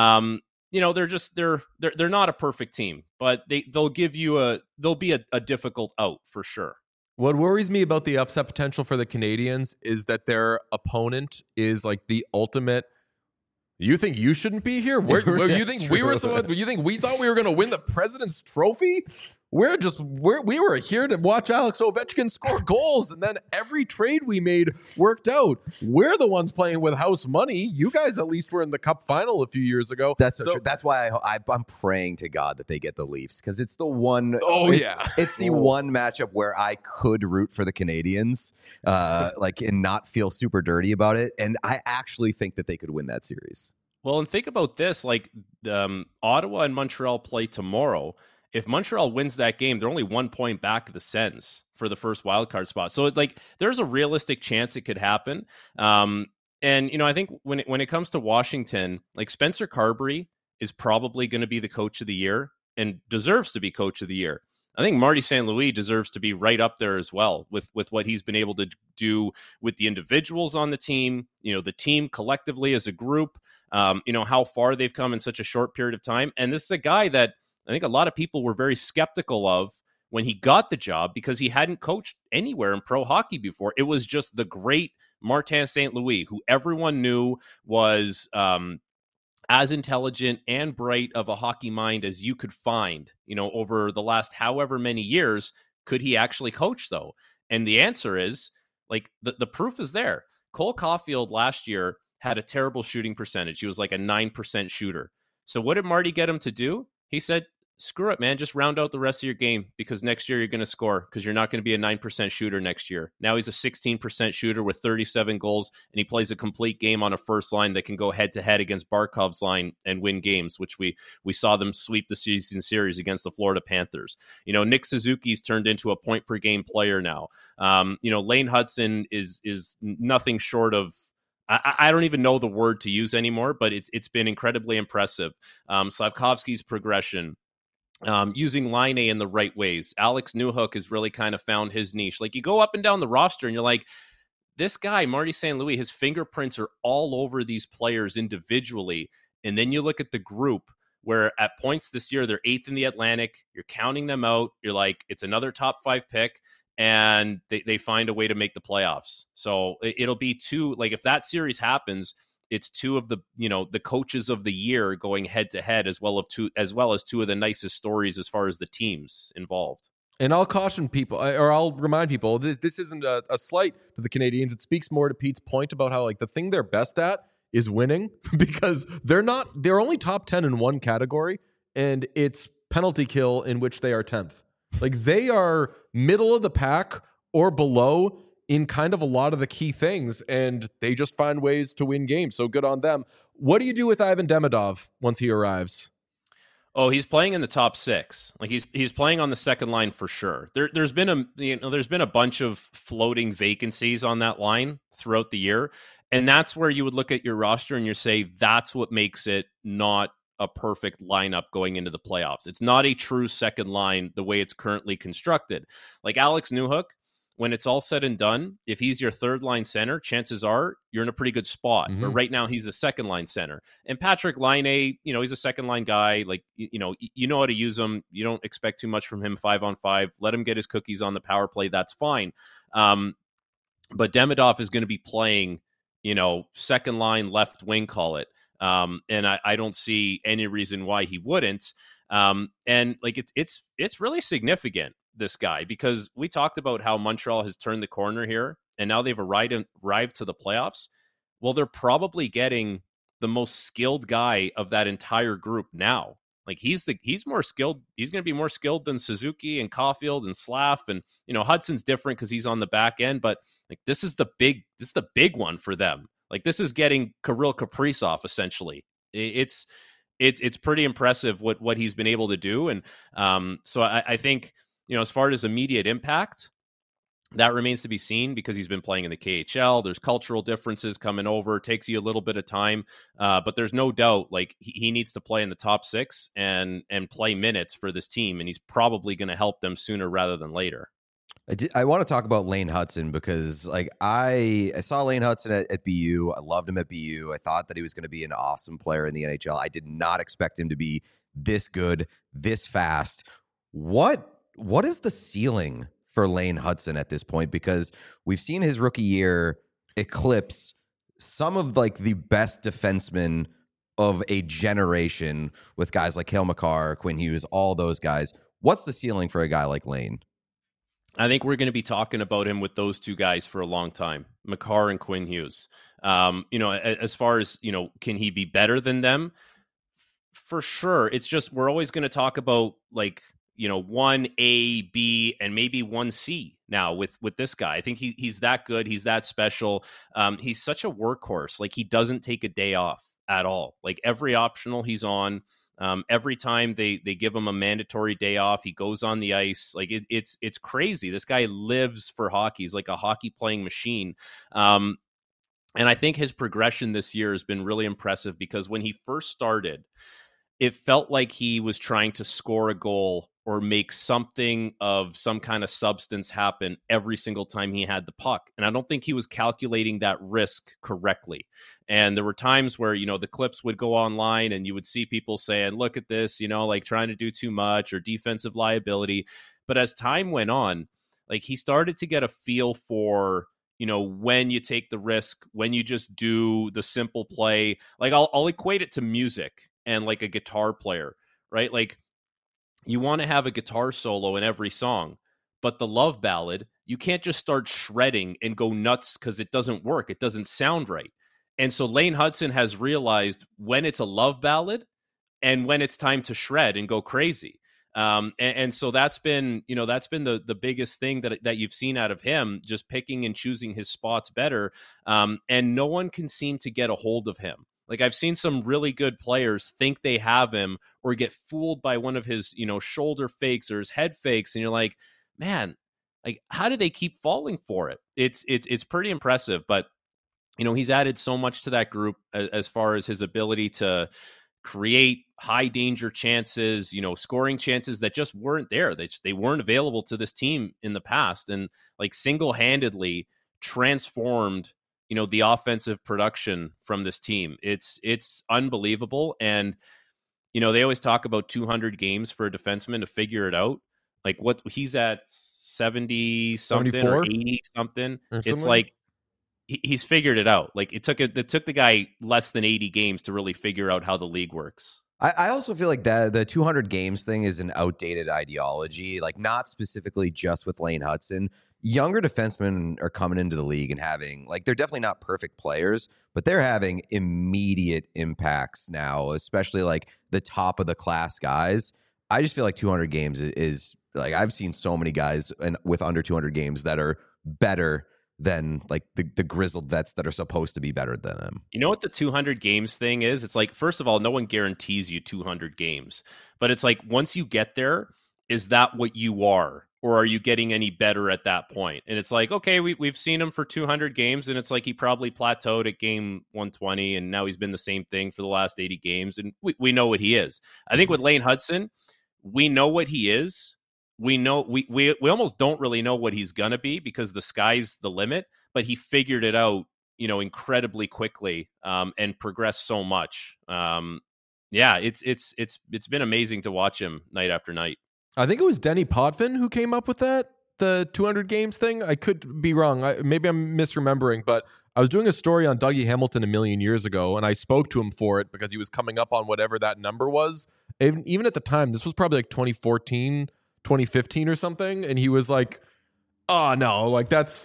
They're not a perfect team, but they'll be a difficult out for sure. What worries me about the upset potential for the Canadiens is that their opponent is like the ultimate. You think you shouldn't be here? You think we were? You think we thought we were going to win the President's Trophy? We were here to watch Alex Ovechkin score goals, and then every trade we made worked out. We're the ones playing with house money. You guys at least were in the Cup final a few years ago. That's so true. That's why I'm praying to God that they get the Leafs, because it's the one. It's the one matchup where I could root for the Canadiens, and not feel super dirty about it. And I actually think that they could win that series. Well, and think about this: like Ottawa and Montreal play tomorrow. If Montreal wins that game, they're only 1 point back of the Sens for the first wildcard spot. So there's a realistic chance it could happen. And I think when it comes to Washington, like Spencer Carbery is probably going to be the coach of the year and deserves to be coach of the year. I think Marty St. Louis deserves to be right up there as well with what he's been able to do with the individuals on the team, the team collectively as a group, how far they've come in such a short period of time. And this is a guy that I think a lot of people were very skeptical of when he got the job, because he hadn't coached anywhere in pro hockey before. It was just the great Martin St. Louis, who everyone knew was as intelligent and bright of a hockey mind as you could find, over the last however many years. Could he actually coach, though? And the answer is, like, the proof is there. Cole Caulfield last year had a terrible shooting percentage. He was like a 9% shooter. So what did Marty get him to do? He said, screw it, man. Just round out the rest of your game because next year you're going to score because you're not going to be a 9% shooter next year. Now he's a 16% shooter with 37 goals, and he plays a complete game on a first line that can go head-to-head against Barkov's line and win games, which we saw them sweep the season series against the Florida Panthers. Nick Suzuki's turned into a point-per-game player now. Lane Hudson is nothing short of I don't even know the word to use anymore, but it's been incredibly impressive. Slavkovsky's progression, using Line A in the right ways. Alex Newhook has really kind of found his niche. Like, you go up and down the roster and you're like, this guy, Marty St. Louis, his fingerprints are all over these players individually. And then you look at the group where at points this year, they're 8th in the Atlantic. You're counting them out. You're like, it's another top 5 pick. And they find a way to make the playoffs. So it'll be two, like if that series happens, it's two of the coaches of the year going head to head, as well as two of the nicest stories as far as the teams involved. And I'll caution people, or I'll remind people, this isn't a slight to the Canadiens. It speaks more to Pete's point about how like the thing they're best at is winning because they're only top 10 in one category, and it's penalty kill, in which they are 10th. Like, they are middle of the pack or below in kind of a lot of the key things, and they just find ways to win games. So good on them. What do you do with Ivan Demidov once he arrives? Oh, he's playing in the top 6. Like, he's playing on the second line for sure. There's been a bunch of floating vacancies on that line throughout the year, and that's where you would look at your roster and you say that's what makes it not a perfect lineup going into the playoffs. It's not a true second line the way it's currently constructed. Like Alex Newhook, when it's all said and done, if he's your third line center, chances are you're in a pretty good spot. Mm-hmm. But right now he's a second line center. And Patrick Laine, he's a second line guy. Like, you know how to use him. You don't expect too much from him 5-on-5. Let him get his cookies on the power play. That's fine. But Demidov is going to be playing, second line left wing, call it. And I don't see any reason why he wouldn't. And like it's really significant, this guy, because we talked about how Montreal has turned the corner here, and now they've arrived to the playoffs. Well, they're probably getting the most skilled guy of that entire group now. Like, he's more skilled. He's going to be more skilled than Suzuki and Caulfield and Slav, and Hudson's different because he's on the back end. But like, this is the big one for them. Like, this is getting Kirill Kaprizov, essentially. It's pretty impressive what he's been able to do. And so I think, as far as immediate impact, that remains to be seen because he's been playing in the KHL. There's cultural differences coming over. It takes you a little bit of time. But there's no doubt, like, he needs to play in the top 6 and play minutes for this team. And he's probably going to help them sooner rather than later. I want to talk about Lane Hudson because, like, I saw Lane Hudson at BU. I loved him at BU. I thought that he was going to be an awesome player in the NHL. I did not expect him to be this good, this fast. What is the ceiling for Lane Hudson at this point? Because we've seen his rookie year eclipse some of like the best defensemen of a generation with guys like Cale Makar, Quinn Hughes, all those guys. What's the ceiling for a guy like Lane? I think we're going to be talking about him with those two guys for a long time, Makar and Quinn Hughes. As far as, can he be better than them? For sure. It's just, we're always going to talk about like, 1A, B, and maybe 1C now with this guy. I think he's that good. He's that special. He's such a workhorse. Like, he doesn't take a day off at all. Like, every optional he's on. Every time they give him a mandatory day off, he goes on the ice. Like, it's crazy. This guy lives for hockey. He's like a hockey playing machine. And I think his progression this year has been really impressive because when he first started, it felt like he was trying to score a goal or make something of some kind of substance happen every single time he had the puck. And I don't think he was calculating that risk correctly. And there were times where, the clips would go online and you would see people saying, look at this, like trying to do too much or defensive liability. But as time went on, like, he started to get a feel for, when you take the risk, when you just do the simple play. Like, I'll equate it to music and like a guitar player, right? Like, you want to have a guitar solo in every song, but the love ballad, you can't just start shredding and go nuts because it doesn't work. It doesn't sound right. And so Lane Hudson has realized when it's a love ballad and when it's time to shred and go crazy. And so that's been the biggest thing that you've seen out of him, just picking and choosing his spots better. And no one can seem to get a hold of him. Like, I've seen some really good players think they have him or get fooled by one of his, shoulder fakes or his head fakes. And you're like, man, like, how do they keep falling for it? It's pretty impressive, but he's added so much to that group as far as his ability to create high danger chances, scoring chances that just weren't there. They weren't available to this team in the past, and like single-handedly transformed, the offensive production from this team. It's unbelievable. And, they always talk about 200 games for a defenseman to figure it out. Like, what he's at 70 something 74? or 80 something. It's like, he's figured it out. Like, it took the guy less than 80 games to really figure out how the league works. I also feel like the 200 games thing is an outdated ideology, like not specifically just with Lane Hudson. Younger defensemen are coming into the league and having, like, they're definitely not perfect players, but they're having immediate impacts now, especially like the top of the class guys. I just feel like 200 games is like, I've seen so many guys with under 200 games that are better than like the grizzled vets that are supposed to be better than them. You know what the 200 games thing is? It's like, first of all, no one guarantees you 200 games, but it's like, once you get there, is that what you are? Or are you getting any better at that point? And it's like, okay, we've seen him for 200 games, and it's like he probably plateaued at game 120, and now he's been the same thing for the last 80 games, and we know what he is. I think with Lane Hudson, we know what he is. We know we almost don't really know what he's gonna be because the sky's the limit, but he figured it out, incredibly quickly, and progressed so much. It's been amazing to watch him night after night. I think it was Denny Potvin who came up with that, the 200 games thing. I could be wrong. Maybe I'm misremembering, but I was doing a story on Dougie Hamilton a million years ago, and I spoke to him for it because he was coming up on whatever that number was. Even at the time, this was probably like 2014, 2015 or something, and he was like, oh no, like that's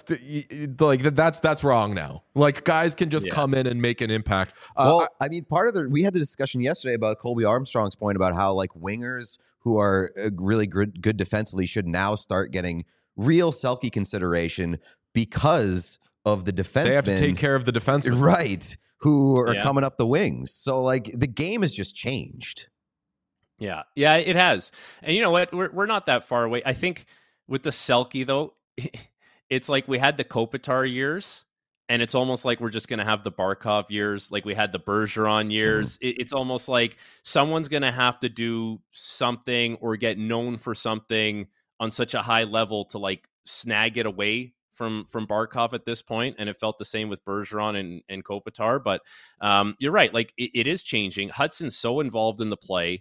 wrong now. Like, guys can just come in and make an impact. I mean, we had the discussion yesterday about Colby Armstrong's point about how like wingers who are really good defensively should now start getting real Selke consideration because of the defensemen. They have to take care of the defensemen. Right, who are coming up the wings. So like the game has just changed. Yeah, it has. And you know what? We're not that far away. I think with the Selke, though, it's like we had the Kopitar years, and it's almost like we're just going to have the Barkov years, like we had the Bergeron years. It's almost like someone's going to have to do something or get known for something on such a high level to like snag it away from Barkov at this point. And it felt the same with Bergeron and Kopitar. But you're right. Like it is changing. Hudson's so involved in the play.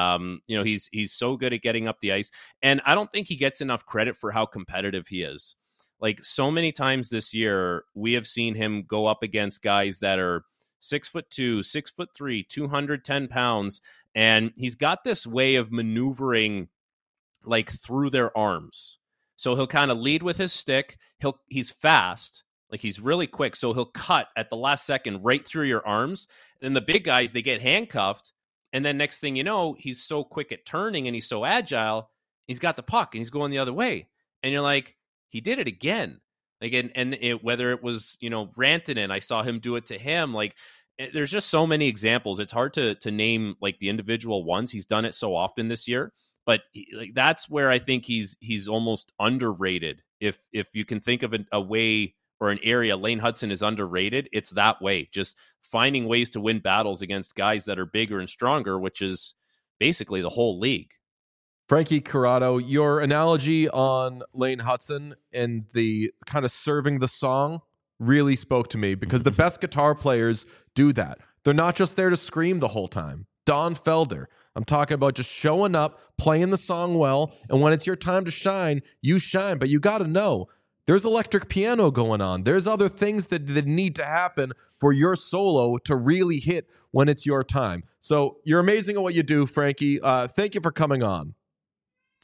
He's so good at getting up the ice, and I don't think he gets enough credit for how competitive he is. Like, so many times this year, we have seen him go up against guys that are 6'2", 6'3", 210 pounds, and he's got this way of maneuvering like through their arms. So he'll kind of lead with his stick. He's fast, like he's really quick. So he'll cut at the last second right through your arms. Then the big guys, they get handcuffed. And then next thing you know, he's so quick at turning and he's so agile, he's got the puck and he's going the other way. And you're like, he did it again. Like, whether it was, Rantanen, I saw him do it to him. Like, there's just so many examples. It's hard to name like the individual ones. He's done it so often this year, but that's where I think he's almost underrated. If you can think of a way or an area Lane Hudson is underrated, it's that way. Just finding ways to win battles against guys that are bigger and stronger, which is basically the whole league. Frankie Corrado, your analogy on Lane Hudson and the kind of serving the song really spoke to me, because the best guitar players do that. They're not just there to scream the whole time. Don Felder, I'm talking about just showing up, playing the song well, and when it's your time to shine, you shine. But you got to know, there's electric piano going on. There's other things that need to happen for your solo to really hit when it's your time. So you're amazing at what you do, Frankie. Thank you for coming on.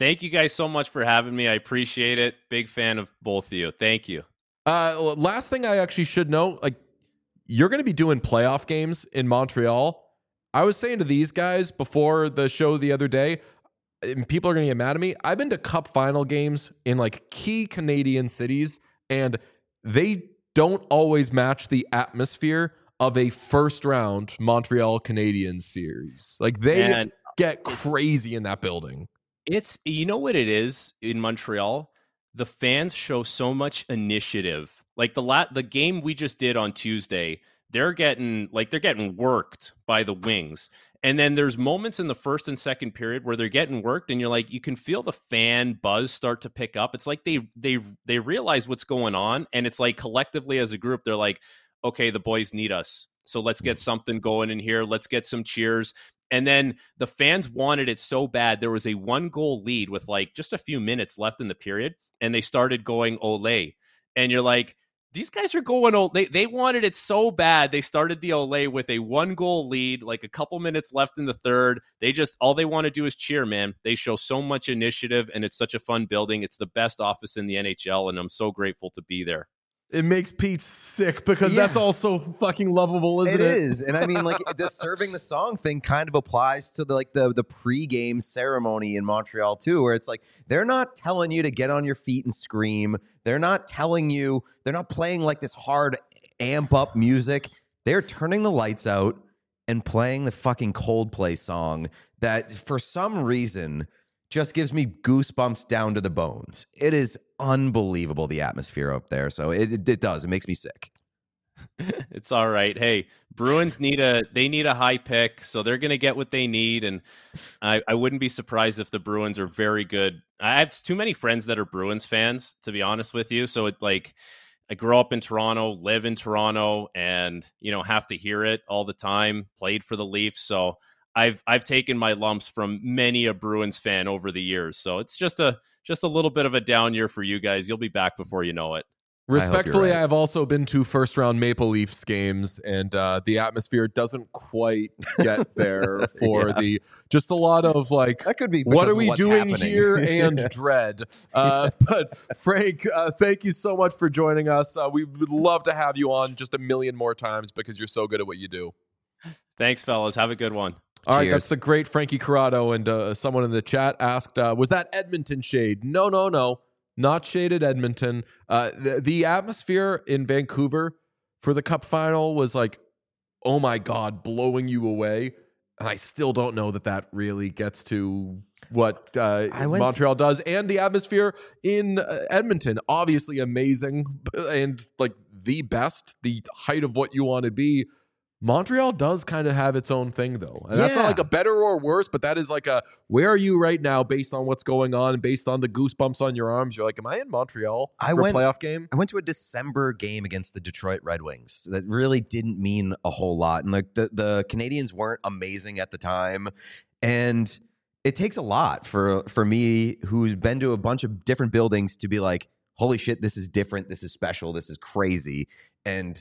Thank you guys so much for having me. I appreciate it. Big fan of both of you. Thank you. Last thing I actually should know, like, you're going to be doing playoff games in Montreal. I was saying to these guys before the show the other day, and people are going to get mad at me, I've been to cup final games in like key Canadian cities, and they don't always match the atmosphere of a first round Montreal Canadiens series. Like, they get crazy in that building. It's, you know what it is in Montreal? The fans show so much initiative. Like the game we just did on Tuesday, they're getting worked by the Wings. And then there's moments in the first and second period where they're getting worked, and you're like, you can feel the fan buzz start to pick up. It's like they realize what's going on, and it's like collectively as a group, they're like, okay, the boys need us. So let's get something going in here. Let's get some cheers. And then the fans wanted it so bad. There was a 1-goal lead with like just a few minutes left in the period, and they started going Olé. And you're like, these guys are going Olé. They wanted it so bad. They started the Olé with a 1-goal lead, like a couple minutes left in the third. All they want to do is cheer, man. They show so much initiative, and it's such a fun building. It's the best office in the NHL, and I'm so grateful to be there. It makes Pete sick because that's also fucking lovable, isn't it? It is. And I mean, like, the serving the song thing kind of applies to the pregame ceremony in Montreal too, where it's like, they're not telling you to get on your feet and scream. They're not playing like this hard amp up music. They're turning the lights out and playing the fucking Coldplay song that for some reason just gives me goosebumps down to the bones. It is unbelievable, the atmosphere up there. So it does. It makes me sick. It's all right. Hey, Bruins need a high pick, so they're going to get what they need. And I wouldn't be surprised if the Bruins are very good. I have too many friends that are Bruins fans, to be honest with you. So I grew up in Toronto, live in Toronto, and have to hear it all the time. Played for the Leafs, so I've taken my lumps from many a Bruins fan over the years. So it's just a little bit of a down year for you guys. You'll be back before you know it. Respectfully, right. I've also been to first-round Maple Leafs games, and the atmosphere doesn't quite get there for just a lot of like, that could be what are we doing happening here, and dread. But Frank, thank you so much for joining us. We would love to have you on just a million more times because you're so good at what you do. Thanks, fellas. Have a good one. All right, that's the great Frankie Corrado. And someone in the chat asked, was that Edmonton shade? No. Not shaded Edmonton. The atmosphere in Vancouver for the Cup final was like, oh my God, blowing you away. And I still don't know that really gets to what Montreal does. And the atmosphere in Edmonton, obviously amazing and like the best, the height of what you want to be. Montreal does kind of have its own thing, though. And that's not like a better or worse, but that is like a, where are you right now based on what's going on and based on the goosebumps on your arms? You're like, am I in Montreal for a playoff game? I went to a December game against the Detroit Red Wings. That really didn't mean a whole lot. And like the Canadians weren't amazing at the time. And it takes a lot for me, who's been to a bunch of different buildings, to be like, holy shit, this is different. This is special. This is crazy. And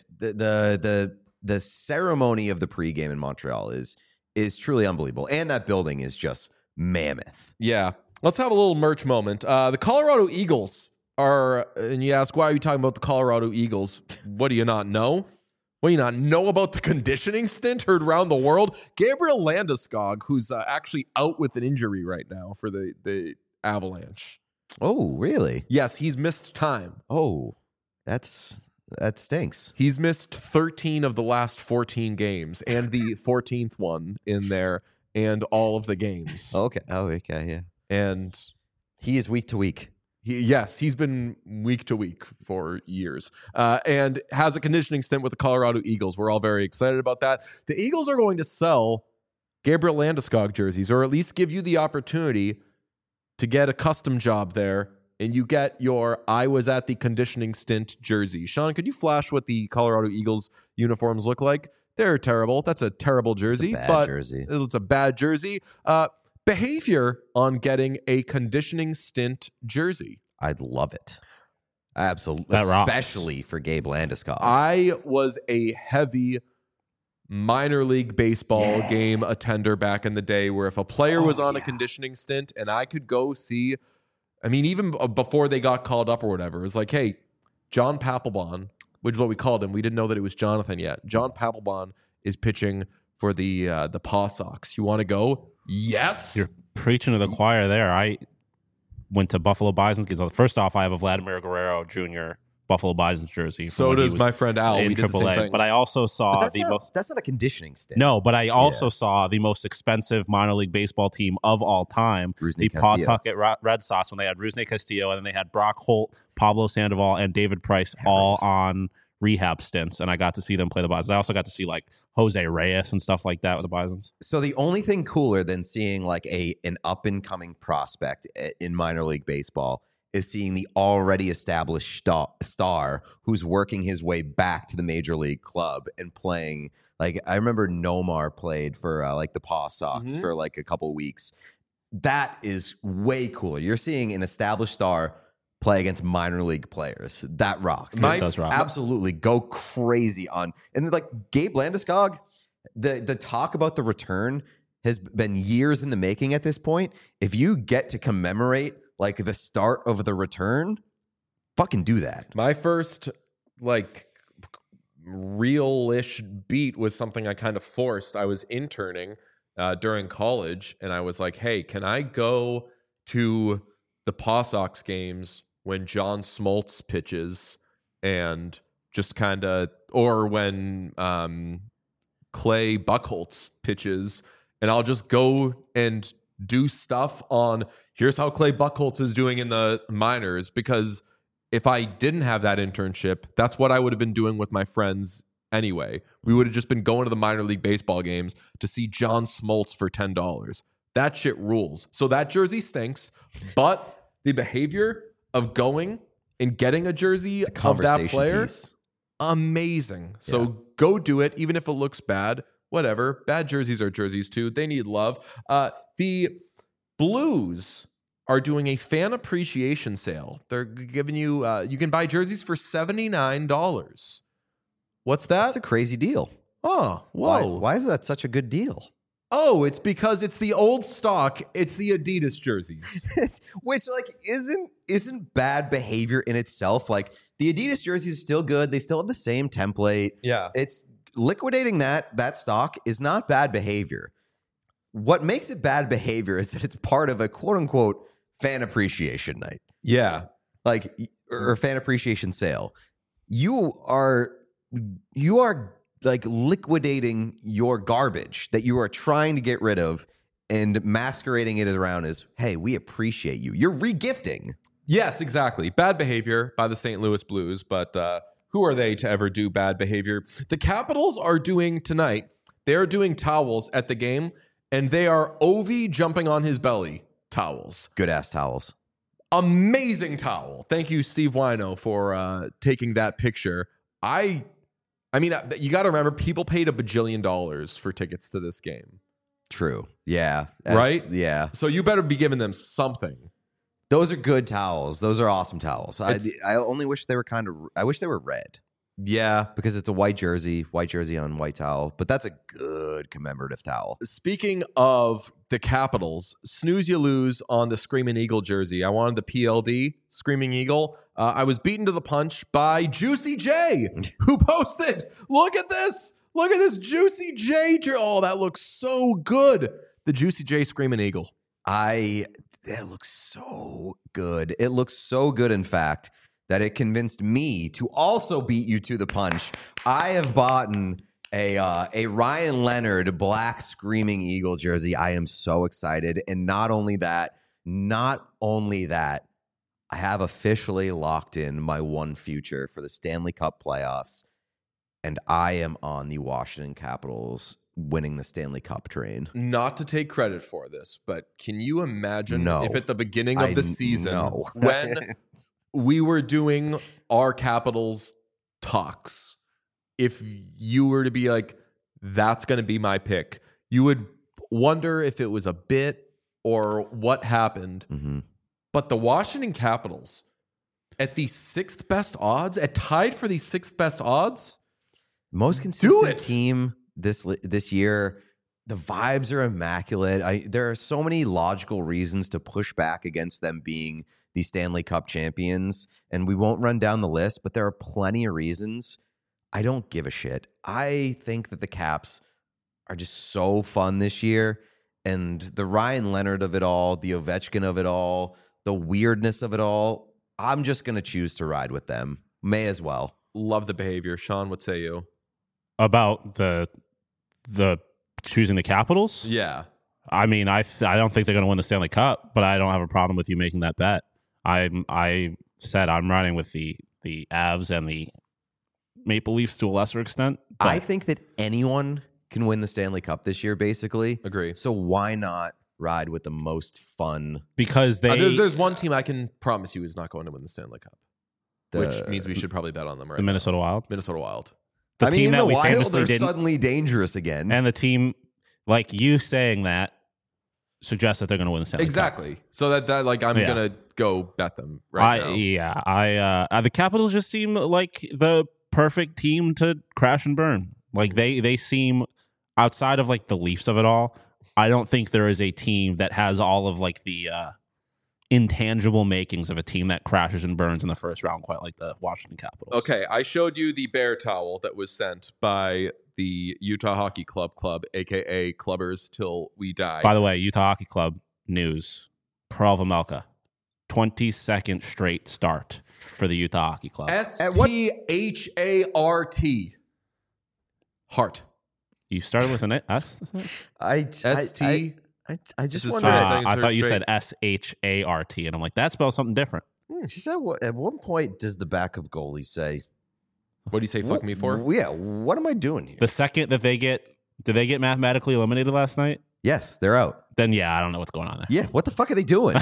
the ceremony of the pregame in Montreal is truly unbelievable. And that building is just mammoth. Yeah. Let's have a little merch moment. The Colorado Eagles are, and you ask, why are you talking about the Colorado Eagles? What do you not know? What do you not know about the conditioning stint heard around the world? Gabriel Landeskog, who's actually out with an injury right now for the Avalanche. Oh, really? Yes, he's missed time. Oh, that stinks. He's missed 13 of the last 14 games and the 14th one in there and all of the games. Okay. Oh, okay. Yeah. And he is week to week. He's been week to week for years and has a conditioning stint with the Colorado Eagles. We're all very excited about that. The Eagles are going to sell Gabriel Landeskog jerseys, or at least give you the opportunity to get a custom job there, and you get your I was at the conditioning stint jersey. Sean, could you flash what the Colorado Eagles uniforms look like? They're terrible. That's a terrible jersey. It's a bad jersey. Behavior on getting a conditioning stint jersey. I'd love it. Absolutely. Especially for Gabe Landeskog. I was a heavy minor league baseball game attender back in the day, where if a player was on a conditioning stint and I could go see, I mean, even before they got called up or whatever, it was like, hey, John Papelbon, which is what we called him. We didn't know that it was Jonathan yet. John Papelbon is pitching for the Paw Sox. You want to go? Yes. You're preaching to the choir there. I went to Buffalo Bison's games. First off, I have a Vladimir Guerrero Jr. Buffalo Bison's jersey. So does my friend Al. In AAA. But I also saw that's not a conditioning stint. No, but I also saw the most expensive minor league baseball team of all time, the Pawtucket Red Sox, when they had Rusney Castillo, and then they had Brock Holt, Pablo Sandoval, and David Price all on rehab stints, and I got to see them play the Bisons. I also got to see like Jose Reyes and stuff like that with the Bisons. So the only thing cooler than seeing like an up and coming prospect in minor league baseball is seeing the already established star who's working his way back to the major league club and playing. Like, I remember Nomar played for like the Paw Sox for like a couple weeks. That is way cooler. You're seeing an established star play against minor league players. That rocks. It does rock. Absolutely go crazy on. And like Gabe Landeskog, the talk about the return has been years in the making at this point. If you get to commemorate like the start of the return, fucking do that. My first like real-ish beat was something I kind of forced. I was interning during college, and I was like, hey, can I go to the Paw Sox games when John Smoltz pitches, and just kind of, or when Clay Buchholz pitches, and I'll just go and do stuff on here's how Clay Buchholz is doing in the minors, because if I didn't have that internship, that's what I would have been doing with my friends anyway. We would have just been going to the minor league baseball games to see John Smoltz for $10. That shit rules. So that jersey stinks, but the behavior of going and getting a jersey of that player, amazing. So go do it, even if it looks bad. Whatever. Bad jerseys are jerseys too. They need love. The Blues are doing a fan appreciation sale. They're giving you, you can buy jerseys for $79. What's that? That's a crazy deal. Oh, whoa. Why is that such a good deal? Oh, it's because it's the old stock. It's the Adidas jerseys. Which, like, isn't bad behavior in itself. Like, the Adidas jersey is still good. They still have the same template. Yeah. It's liquidating that stock is not bad behavior. What makes it bad behavior is that it's part of a quote-unquote fan appreciation night. Yeah. Like, or fan appreciation sale. You are like liquidating your garbage that you are trying to get rid of and masquerading it around as, hey, we appreciate you. You're regifting. Yes, exactly. Bad behavior by the St. Louis Blues, but who are they to ever do bad behavior? The Capitals are doing tonight, they're doing towels at the game, and they are Ovi jumping on his belly towels. Good-ass towels. Amazing towel. Thank you, Steve Wino, for taking that picture. I mean, you got to remember, people paid $1 bajillion for tickets to this game. True. Yeah. Right? Yeah. So you better be giving them something. Those are good towels. Those are awesome towels. I only wish they were I wish they were red. Yeah. Because it's a white jersey on white towel. But that's a good commemorative towel. Speaking of the Capitals, snooze you lose on the Screaming Eagle jersey. I wanted the PLD, Screaming Eagle. I was beaten to the punch by Juicy J, who posted, look at this Juicy J. Oh, that looks so good. The Juicy J Screaming Eagle. That looks so good. It looks so good, in fact, that it convinced me to also beat you to the punch. I have bought a Ryan Leonard black Screaming Eagle jersey. I am so excited. And not only that, I have officially locked in my one future for the Stanley Cup playoffs, and I am on the Washington Capitals winning the Stanley Cup train. Not to take credit for this, but can you imagine if at the beginning of the season when we were doing our Capitals talks, if you were to be like, that's going to be my pick, you would wonder if it was a bit or what happened. Mm-hmm. But the Washington Capitals, at the sixth best odds, tied for the sixth best odds, most consistent team this year. The vibes are immaculate. There are so many logical reasons to push back against them being the Stanley Cup champions, and we won't run down the list, but there are plenty of reasons. I don't give a shit. I think that the Caps are just so fun this year, and the Ryan Leonard of it all, the Ovechkin of it all, the weirdness of it all, I'm just going to choose to ride with them. May as well. Love the behavior. Sean, what say you? About the choosing the Capitals? Yeah. I mean, I don't think they're going to win the Stanley Cup, but I don't have a problem with you making that bet. I said I'm riding with the Avs and the Maple Leafs to a lesser extent. I think that anyone can win the Stanley Cup this year, basically. Agree. So why not ride with the most fun? Because there's one team I can promise you is not going to win the Stanley Cup, which means we should probably bet on them right now. The Minnesota Wild? Minnesota Wild. The team that we Wild famously are suddenly dangerous again. And the team, like you saying that, suggests that they're going to win the Stanley Cup. Exactly. So that like I'm going to go bet them right now. Yeah. The Capitals just seem like the perfect team to crash and burn. Like they seem, outside of like the Leafs of it all, I don't think there is a team that has all of like the intangible makings of a team that crashes and burns in the first round, quite like the Washington Capitals. Okay, I showed you the bear towel that was sent by the Utah Hockey Club, aka Clubbers Till We Die. By the way, Utah Hockey Club news: Karel Vejmelka, 22nd straight start for the Utah Hockey Club. STHART. Heart. You started with an S? I just wonder. I thought you said SHART, and I'm like, that spells something different. She said, at one point, does the backup goalie say, what do you say, fuck me for? Yeah, what am I doing here? The second that did they get mathematically eliminated last night? Yes, they're out. Then, yeah, I don't know what's going on there. Yeah, what the fuck are they doing?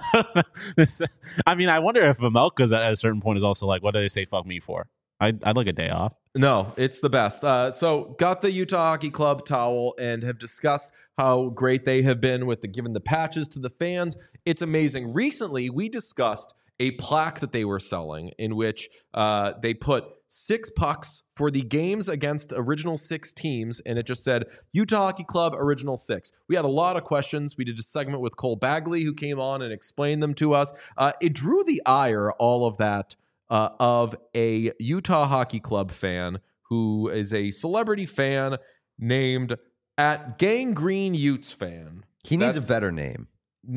I mean, I wonder if Vejmelka's at a certain point is also like, what do they say fuck me for? I'd like a day off. No, it's the best. So got the Utah Hockey Club towel and have discussed how great they have been with giving the patches to the fans. It's amazing. Recently, we discussed a plaque that they were selling in which they put 6 pucks for the games against original 6 teams, and it just said Utah Hockey Club Original 6. We had a lot of questions. We did a segment with Cole Bagley, who came on and explained them to us. It drew the ire, all of that, of a Utah Hockey Club fan who is a celebrity fan named @Gangrene Utes fan. He needs a better name.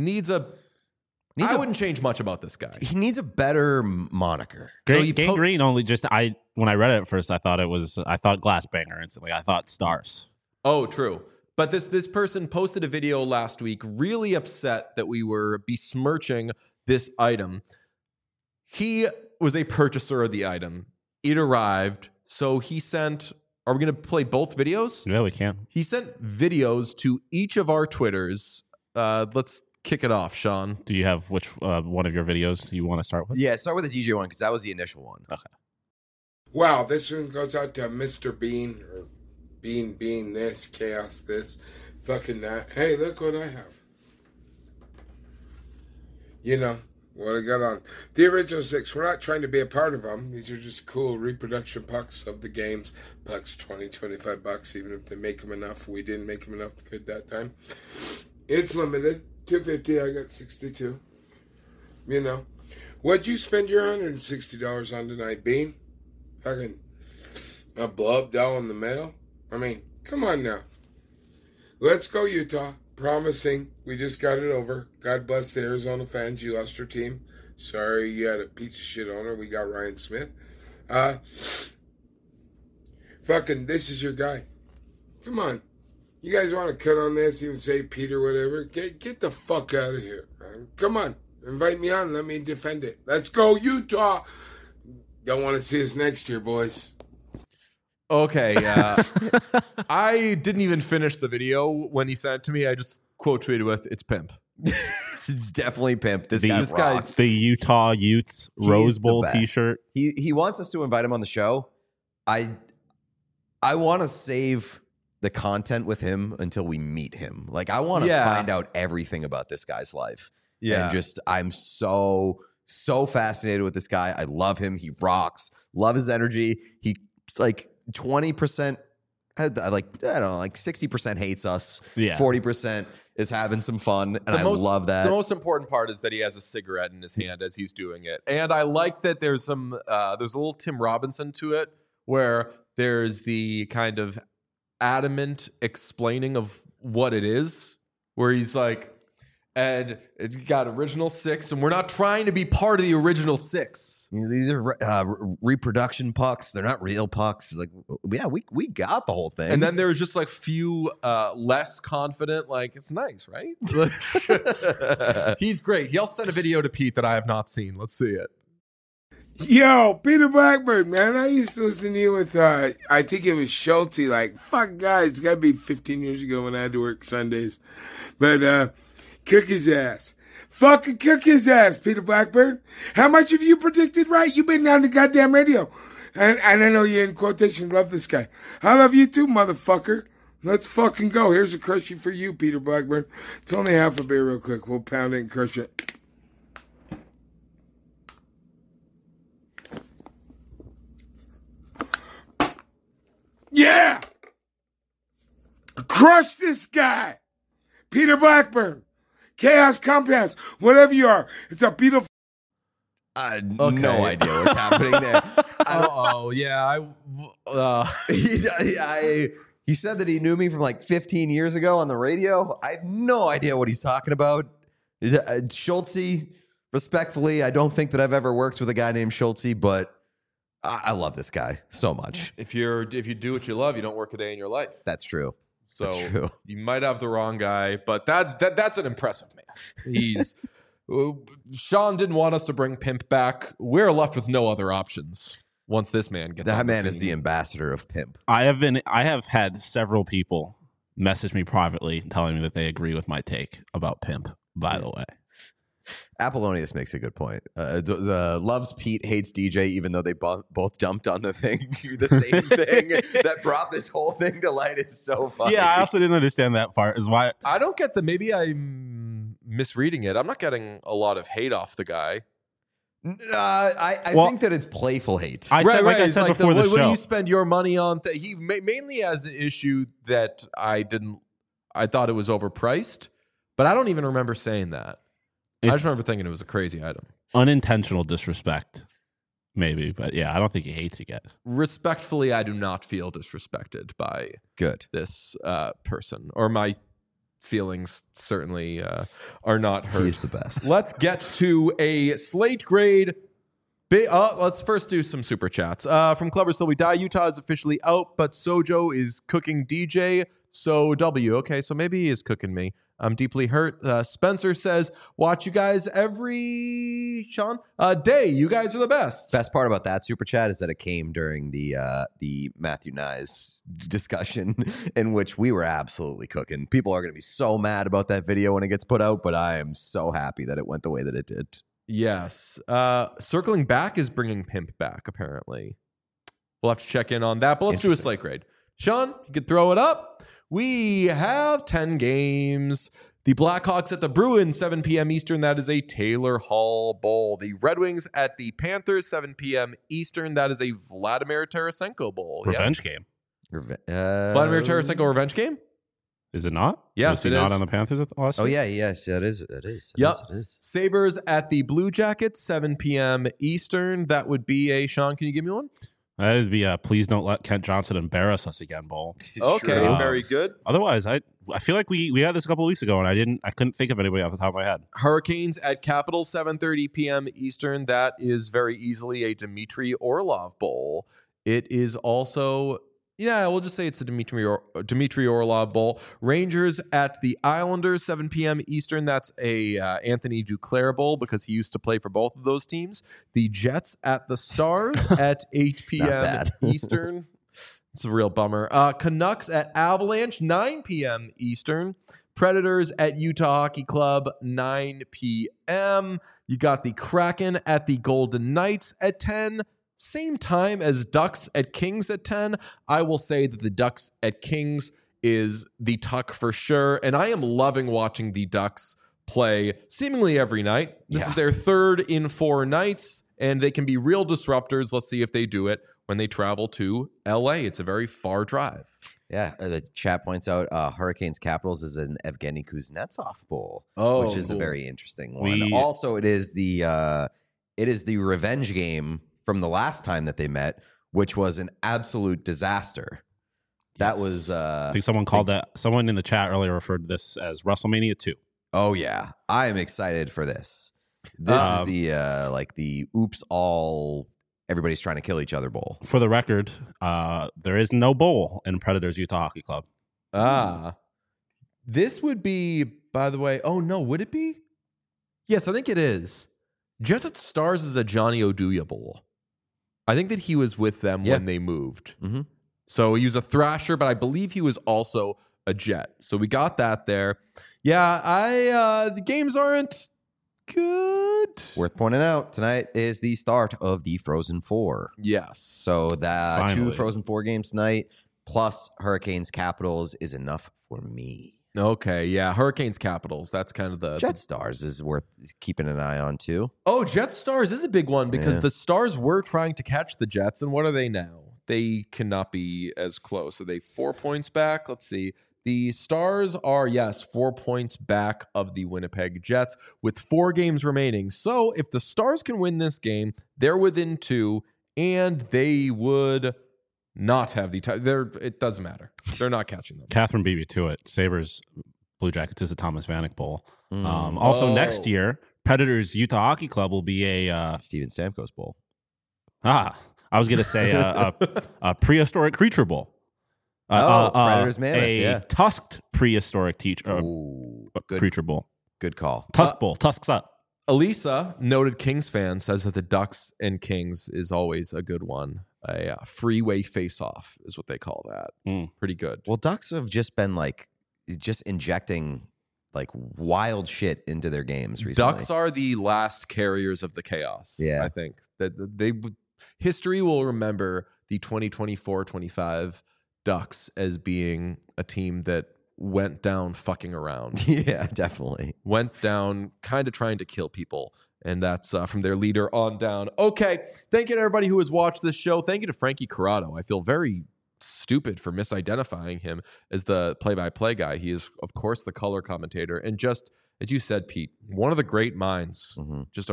I wouldn't change much about this guy. He needs a better moniker. Gangrene only just when I read it at first, I thought Glass Banger instantly. I thought Stars. Oh, true. But this person posted a video last week, really upset that we were besmirching this item. He was a purchaser of the item. It arrived, so he sent. Are we going to play both videos? Yeah, we can. He sent videos to each of our Twitters. Let's kick it off, Sean. Do you have which one of your videos you want to start with? Yeah, start with the DJ one because that was the initial one. Okay. Wow, this one goes out to Mr. Bean, or Bean this, Chaos this, fucking that. Hey, look what I have. You know what I got on. The original 6, we're not trying to be a part of them. These are just cool reproduction pucks of the games. Pucks, $20-$25, even if they make them enough. We didn't make them enough good that time. It's limited. $250, I got 62. You know. What'd you spend your $160 on tonight, Bean? Fucking a blub doll in the mail? I mean, come on now. Let's go, Utah. Promising. We just got it over. God bless the Arizona fans. You lost your team. Sorry you had a piece of shit owner. We got Ryan Smith. Fucking, this is your guy. Come on. You guys want to cut on this, even say Peter, whatever? Get the fuck out of here. Come on. Invite me on. Let me defend it. Let's go, Utah. Don't want to see us next year, boys. Okay, I didn't even finish the video when he sent it to me. I just quote tweeted with, "It's pimp." It's definitely pimp. This guy's the Utah Utes Rose Bowl T-shirt. He wants us to invite him on the show. I want to save the content with him until we meet him. Like, I want to find out everything about this guy's life. Yeah, and I'm so fascinated with this guy. I love him. He rocks. Love his energy. He like 20% like 60% hates us, 40% is having some fun, and I love that. The most important part is that he has a cigarette in his hand as he's doing it, and I like that there's a little Tim Robinson to it, where there's the kind of adamant explaining of what it is, where he's like, and it's got original six, and we're not trying to be part of the original six. These are reproduction pucks. They're not real pucks. It's like, yeah, we got the whole thing. And then there's just like few less confident, like, it's nice, right? He's great. He'll send a video to Pete that I have not seen. Let's see it. Yo, Peter Blackburn, man, I used to listen to you with, I think it was Schulte, like, fuck, guys, it's got to be 15 years ago when I had to work Sundays. But, cook his ass. Fucking cook his ass, Peter Blackburn. How much have you predicted right? You've been on the goddamn radio. And I know you in quotation love this guy. I love you too, motherfucker. Let's fucking go. Here's a crushie for you, Peter Blackburn. It's only half a beer real quick. We'll pound it and crush it. Yeah! Crush this guy! Peter Blackburn. Chaos Compass, whatever you are. It's a beautiful... No idea what's happening there. He said that he knew me from like 15 years ago on the radio. I have no idea what he's talking about. Schulte, respectfully, I don't think that I've ever worked with a guy named Schulte, but I love this guy so much. If you do what you love, you don't work a day in your life. That's true. So you might have the wrong guy, but that's an impressive man. Sean didn't want us to bring Pimp back. We're left with no other options once this man gets. That man is the ambassador of Pimp. I have had several people message me privately telling me that they agree with my take about Pimp. By the way, Apollonius makes a good point. Loves Pete, hates DJ, even though they both jumped on the thing, the same thing that brought this whole thing to light. Is so funny. Yeah, I also didn't understand that part. Is why I don't get the. Maybe I'm misreading it. I'm not getting a lot of hate off the guy. I think that it's playful hate. I said before the show. When you spend your money on, he mainly has an issue that I thought it was overpriced, but I don't even remember saying that. I just remember thinking it was a crazy item. Unintentional disrespect, maybe. But yeah, I don't think he hates you guys. Respectfully, I do not feel disrespected by this person. Or my feelings certainly are not hurt. He's the best. Let's get to a slate grade. Let's first do some super chats. From Clubber Still We Die, Utah is officially out, but Sojo is cooking DJ. So W. Okay, so maybe he is cooking me. I'm deeply hurt. Spencer says, watch you guys every day. You guys are the best. Best part about that super chat is that it came during the Matthew Nyes discussion in which we were absolutely cooking. People are going to be so mad about that video when it gets put out, but I am so happy that it went the way that it did. Yes. Circling Back is bringing Pimp back, apparently. We'll have to check in on that, but let's do a slate grade. Sean, you could throw it up. We have 10 games. The Blackhawks at the Bruins, 7 p.m. Eastern. That is a Taylor Hall Bowl. The Red Wings at the Panthers, 7 p.m. Eastern. That is a Vladimir Tarasenko Bowl. Revenge game. Vladimir Tarasenko revenge game? Is it not? Yes, it is. Not on the Panthers last week? Oh, yeah, yes, it is. It is. Yep. It is. Sabres at the Blue Jackets, 7 p.m. Eastern. That would be a, Sean, can you give me one? That would be a please don't let Kent Johnson embarrass us again bowl. Okay, very good. Otherwise, I feel like we had this a couple of weeks ago, and I couldn't think of anybody off the top of my head. Hurricanes at Capitals, 7:30 p.m. Eastern. That is very easily a Dmitry Orlov Bowl. It is also, we'll just say it's a Dmitry Orlov Bowl. Rangers at the Islanders, 7 p.m. Eastern. That's a Anthony Duclair Bowl because he used to play for both of those teams. The Jets at the Stars at 8 p.m. Eastern. It's a real bummer. Canucks at Avalanche, 9 p.m. Eastern. Predators at Utah Hockey Club, 9 p.m. You got the Kraken at the Golden Knights at 10. Same time as Ducks at Kings at 10. I will say that the Ducks at Kings is the tuck for sure. And I am loving watching the Ducks play seemingly every night. This is their third in 4 nights, and they can be real disruptors. Let's see if they do it when they travel to LA. It's a very far drive. Yeah, the chat points out Hurricanes Capitals is an Evgeny Kuznetsov bowl, which is a very interesting one. Also, it is the revenge game from the last time that they met, which was an absolute disaster. That was I think someone in the chat earlier referred to this as WrestleMania 2. Oh yeah, I am excited for this. This is the oops all everybody's trying to kill each other bowl. For the record, there is no bowl in Predators Utah Hockey Club. This would be, by the way, oh no, would it be? Yes, I think it is. Jets at Stars is a Johnny Oduya bowl. I think that he was with them when they moved. Mm-hmm. So he was a Thrasher, but I believe he was also a Jet. So we got that there. Yeah, the games aren't good. Worth pointing out, tonight is the start of the Frozen Four. Yes. So that 2 Frozen Four games tonight, plus Hurricanes Capitals is enough for me. Okay, yeah. Hurricanes Capitals. That's kind of the... Jet Stars is worth keeping an eye on, too. Oh, Jet Stars is a big one because the Stars were trying to catch the Jets, and what are they now? They cannot be as close. Are they 4 points back? Let's see. The Stars are, 4 points back of the Winnipeg Jets with 4 games remaining. So if the Stars can win this game, they're within 2, and they would not have the time. It doesn't matter. They're not catching them. Catherine beat me to it. Sabres Blue Jackets is a Thomas Vanek Bowl. Also, next year, Predators Utah Hockey Club will be a Steven Stamkos Bowl. I was going to say a prehistoric creature bowl. Predators Mammoth, tusked prehistoric creature bowl. Good call. Tusk Bowl. Tusks up. Elisa, noted Kings fan, says that the Ducks and Kings is always a good one. A freeway face-off is what they call that. Pretty good. Well, Ducks have just been just injecting wild shit into their games recently. Ducks are the last carriers of the chaos. Yeah, I think that history will remember the 2024-25 Ducks as being a team that went down fucking around. Yeah, definitely. Went down kind of trying to kill people. And that's from their leader on down. Okay, thank you to everybody who has watched this show. Thank you to Frankie Corrado. I feel very stupid for misidentifying him as the play-by-play guy. He is, of course, the color commentator. And just, as you said, Pete, one of the great minds. Mm-hmm. Just a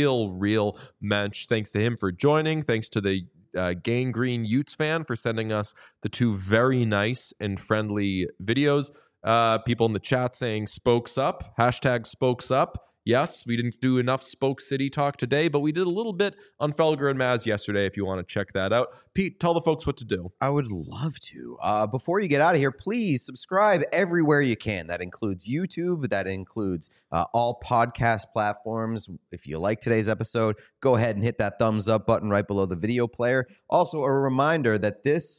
real mensch. Thanks to him for joining. Thanks to the Gang Green Utes fan for sending us the 2 very nice and friendly videos. People in the chat saying spokes up, #spokes up. Yes, we didn't do enough Spoke City talk today, but we did a little bit on Felger and Maz yesterday if you want to check that out. Pete, tell the folks what to do. I would love to. Before you get out of here, please subscribe everywhere you can. That includes YouTube. That includes all podcast platforms. If you like today's episode, go ahead and hit that thumbs up button right below the video player. Also, a reminder that this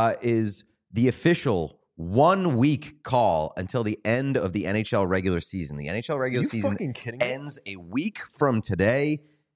is the official 1 week call until the end of the NHL regular season. The NHL regular season ends a week from today,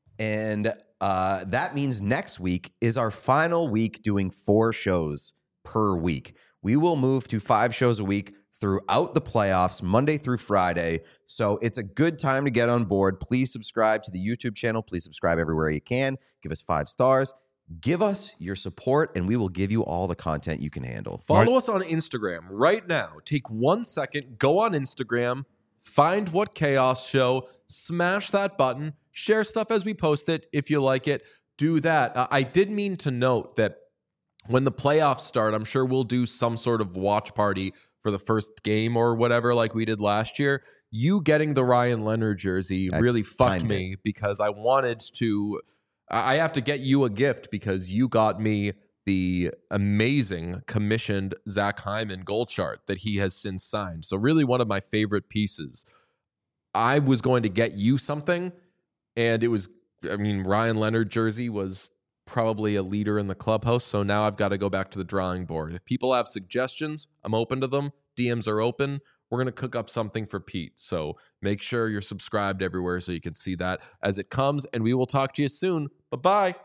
and that means next week is our final week doing 4 shows per week. We will move to 5 shows a week throughout the playoffs, Monday through Friday. So it's a good time to get on board. Please subscribe to the YouTube channel. Please subscribe everywhere you can. Give us 5 stars. Give us your support, and we will give you all the content you can handle. Follow us on Instagram right now. Take 1 second, go on Instagram, find What Chaos Show, smash that button, share stuff as we post it. If you like it, do that. I did mean to note that when the playoffs start, I'm sure we'll do some sort of watch party for the first game or whatever like we did last year. You getting the Ryan Leonard jersey really fucked me because I wanted to... I have to get you a gift because you got me the amazing commissioned Zach Hyman gold chart that he has since signed. So really one of my favorite pieces. I was going to get you something, and it was, Ryan Leonard jersey was probably a leader in the clubhouse. So now I've got to go back to the drawing board. If people have suggestions, I'm open to them. DMs are open. We're going to cook up something for Pete. So make sure you're subscribed everywhere so you can see that as it comes. And we will talk to you soon. Bye-bye.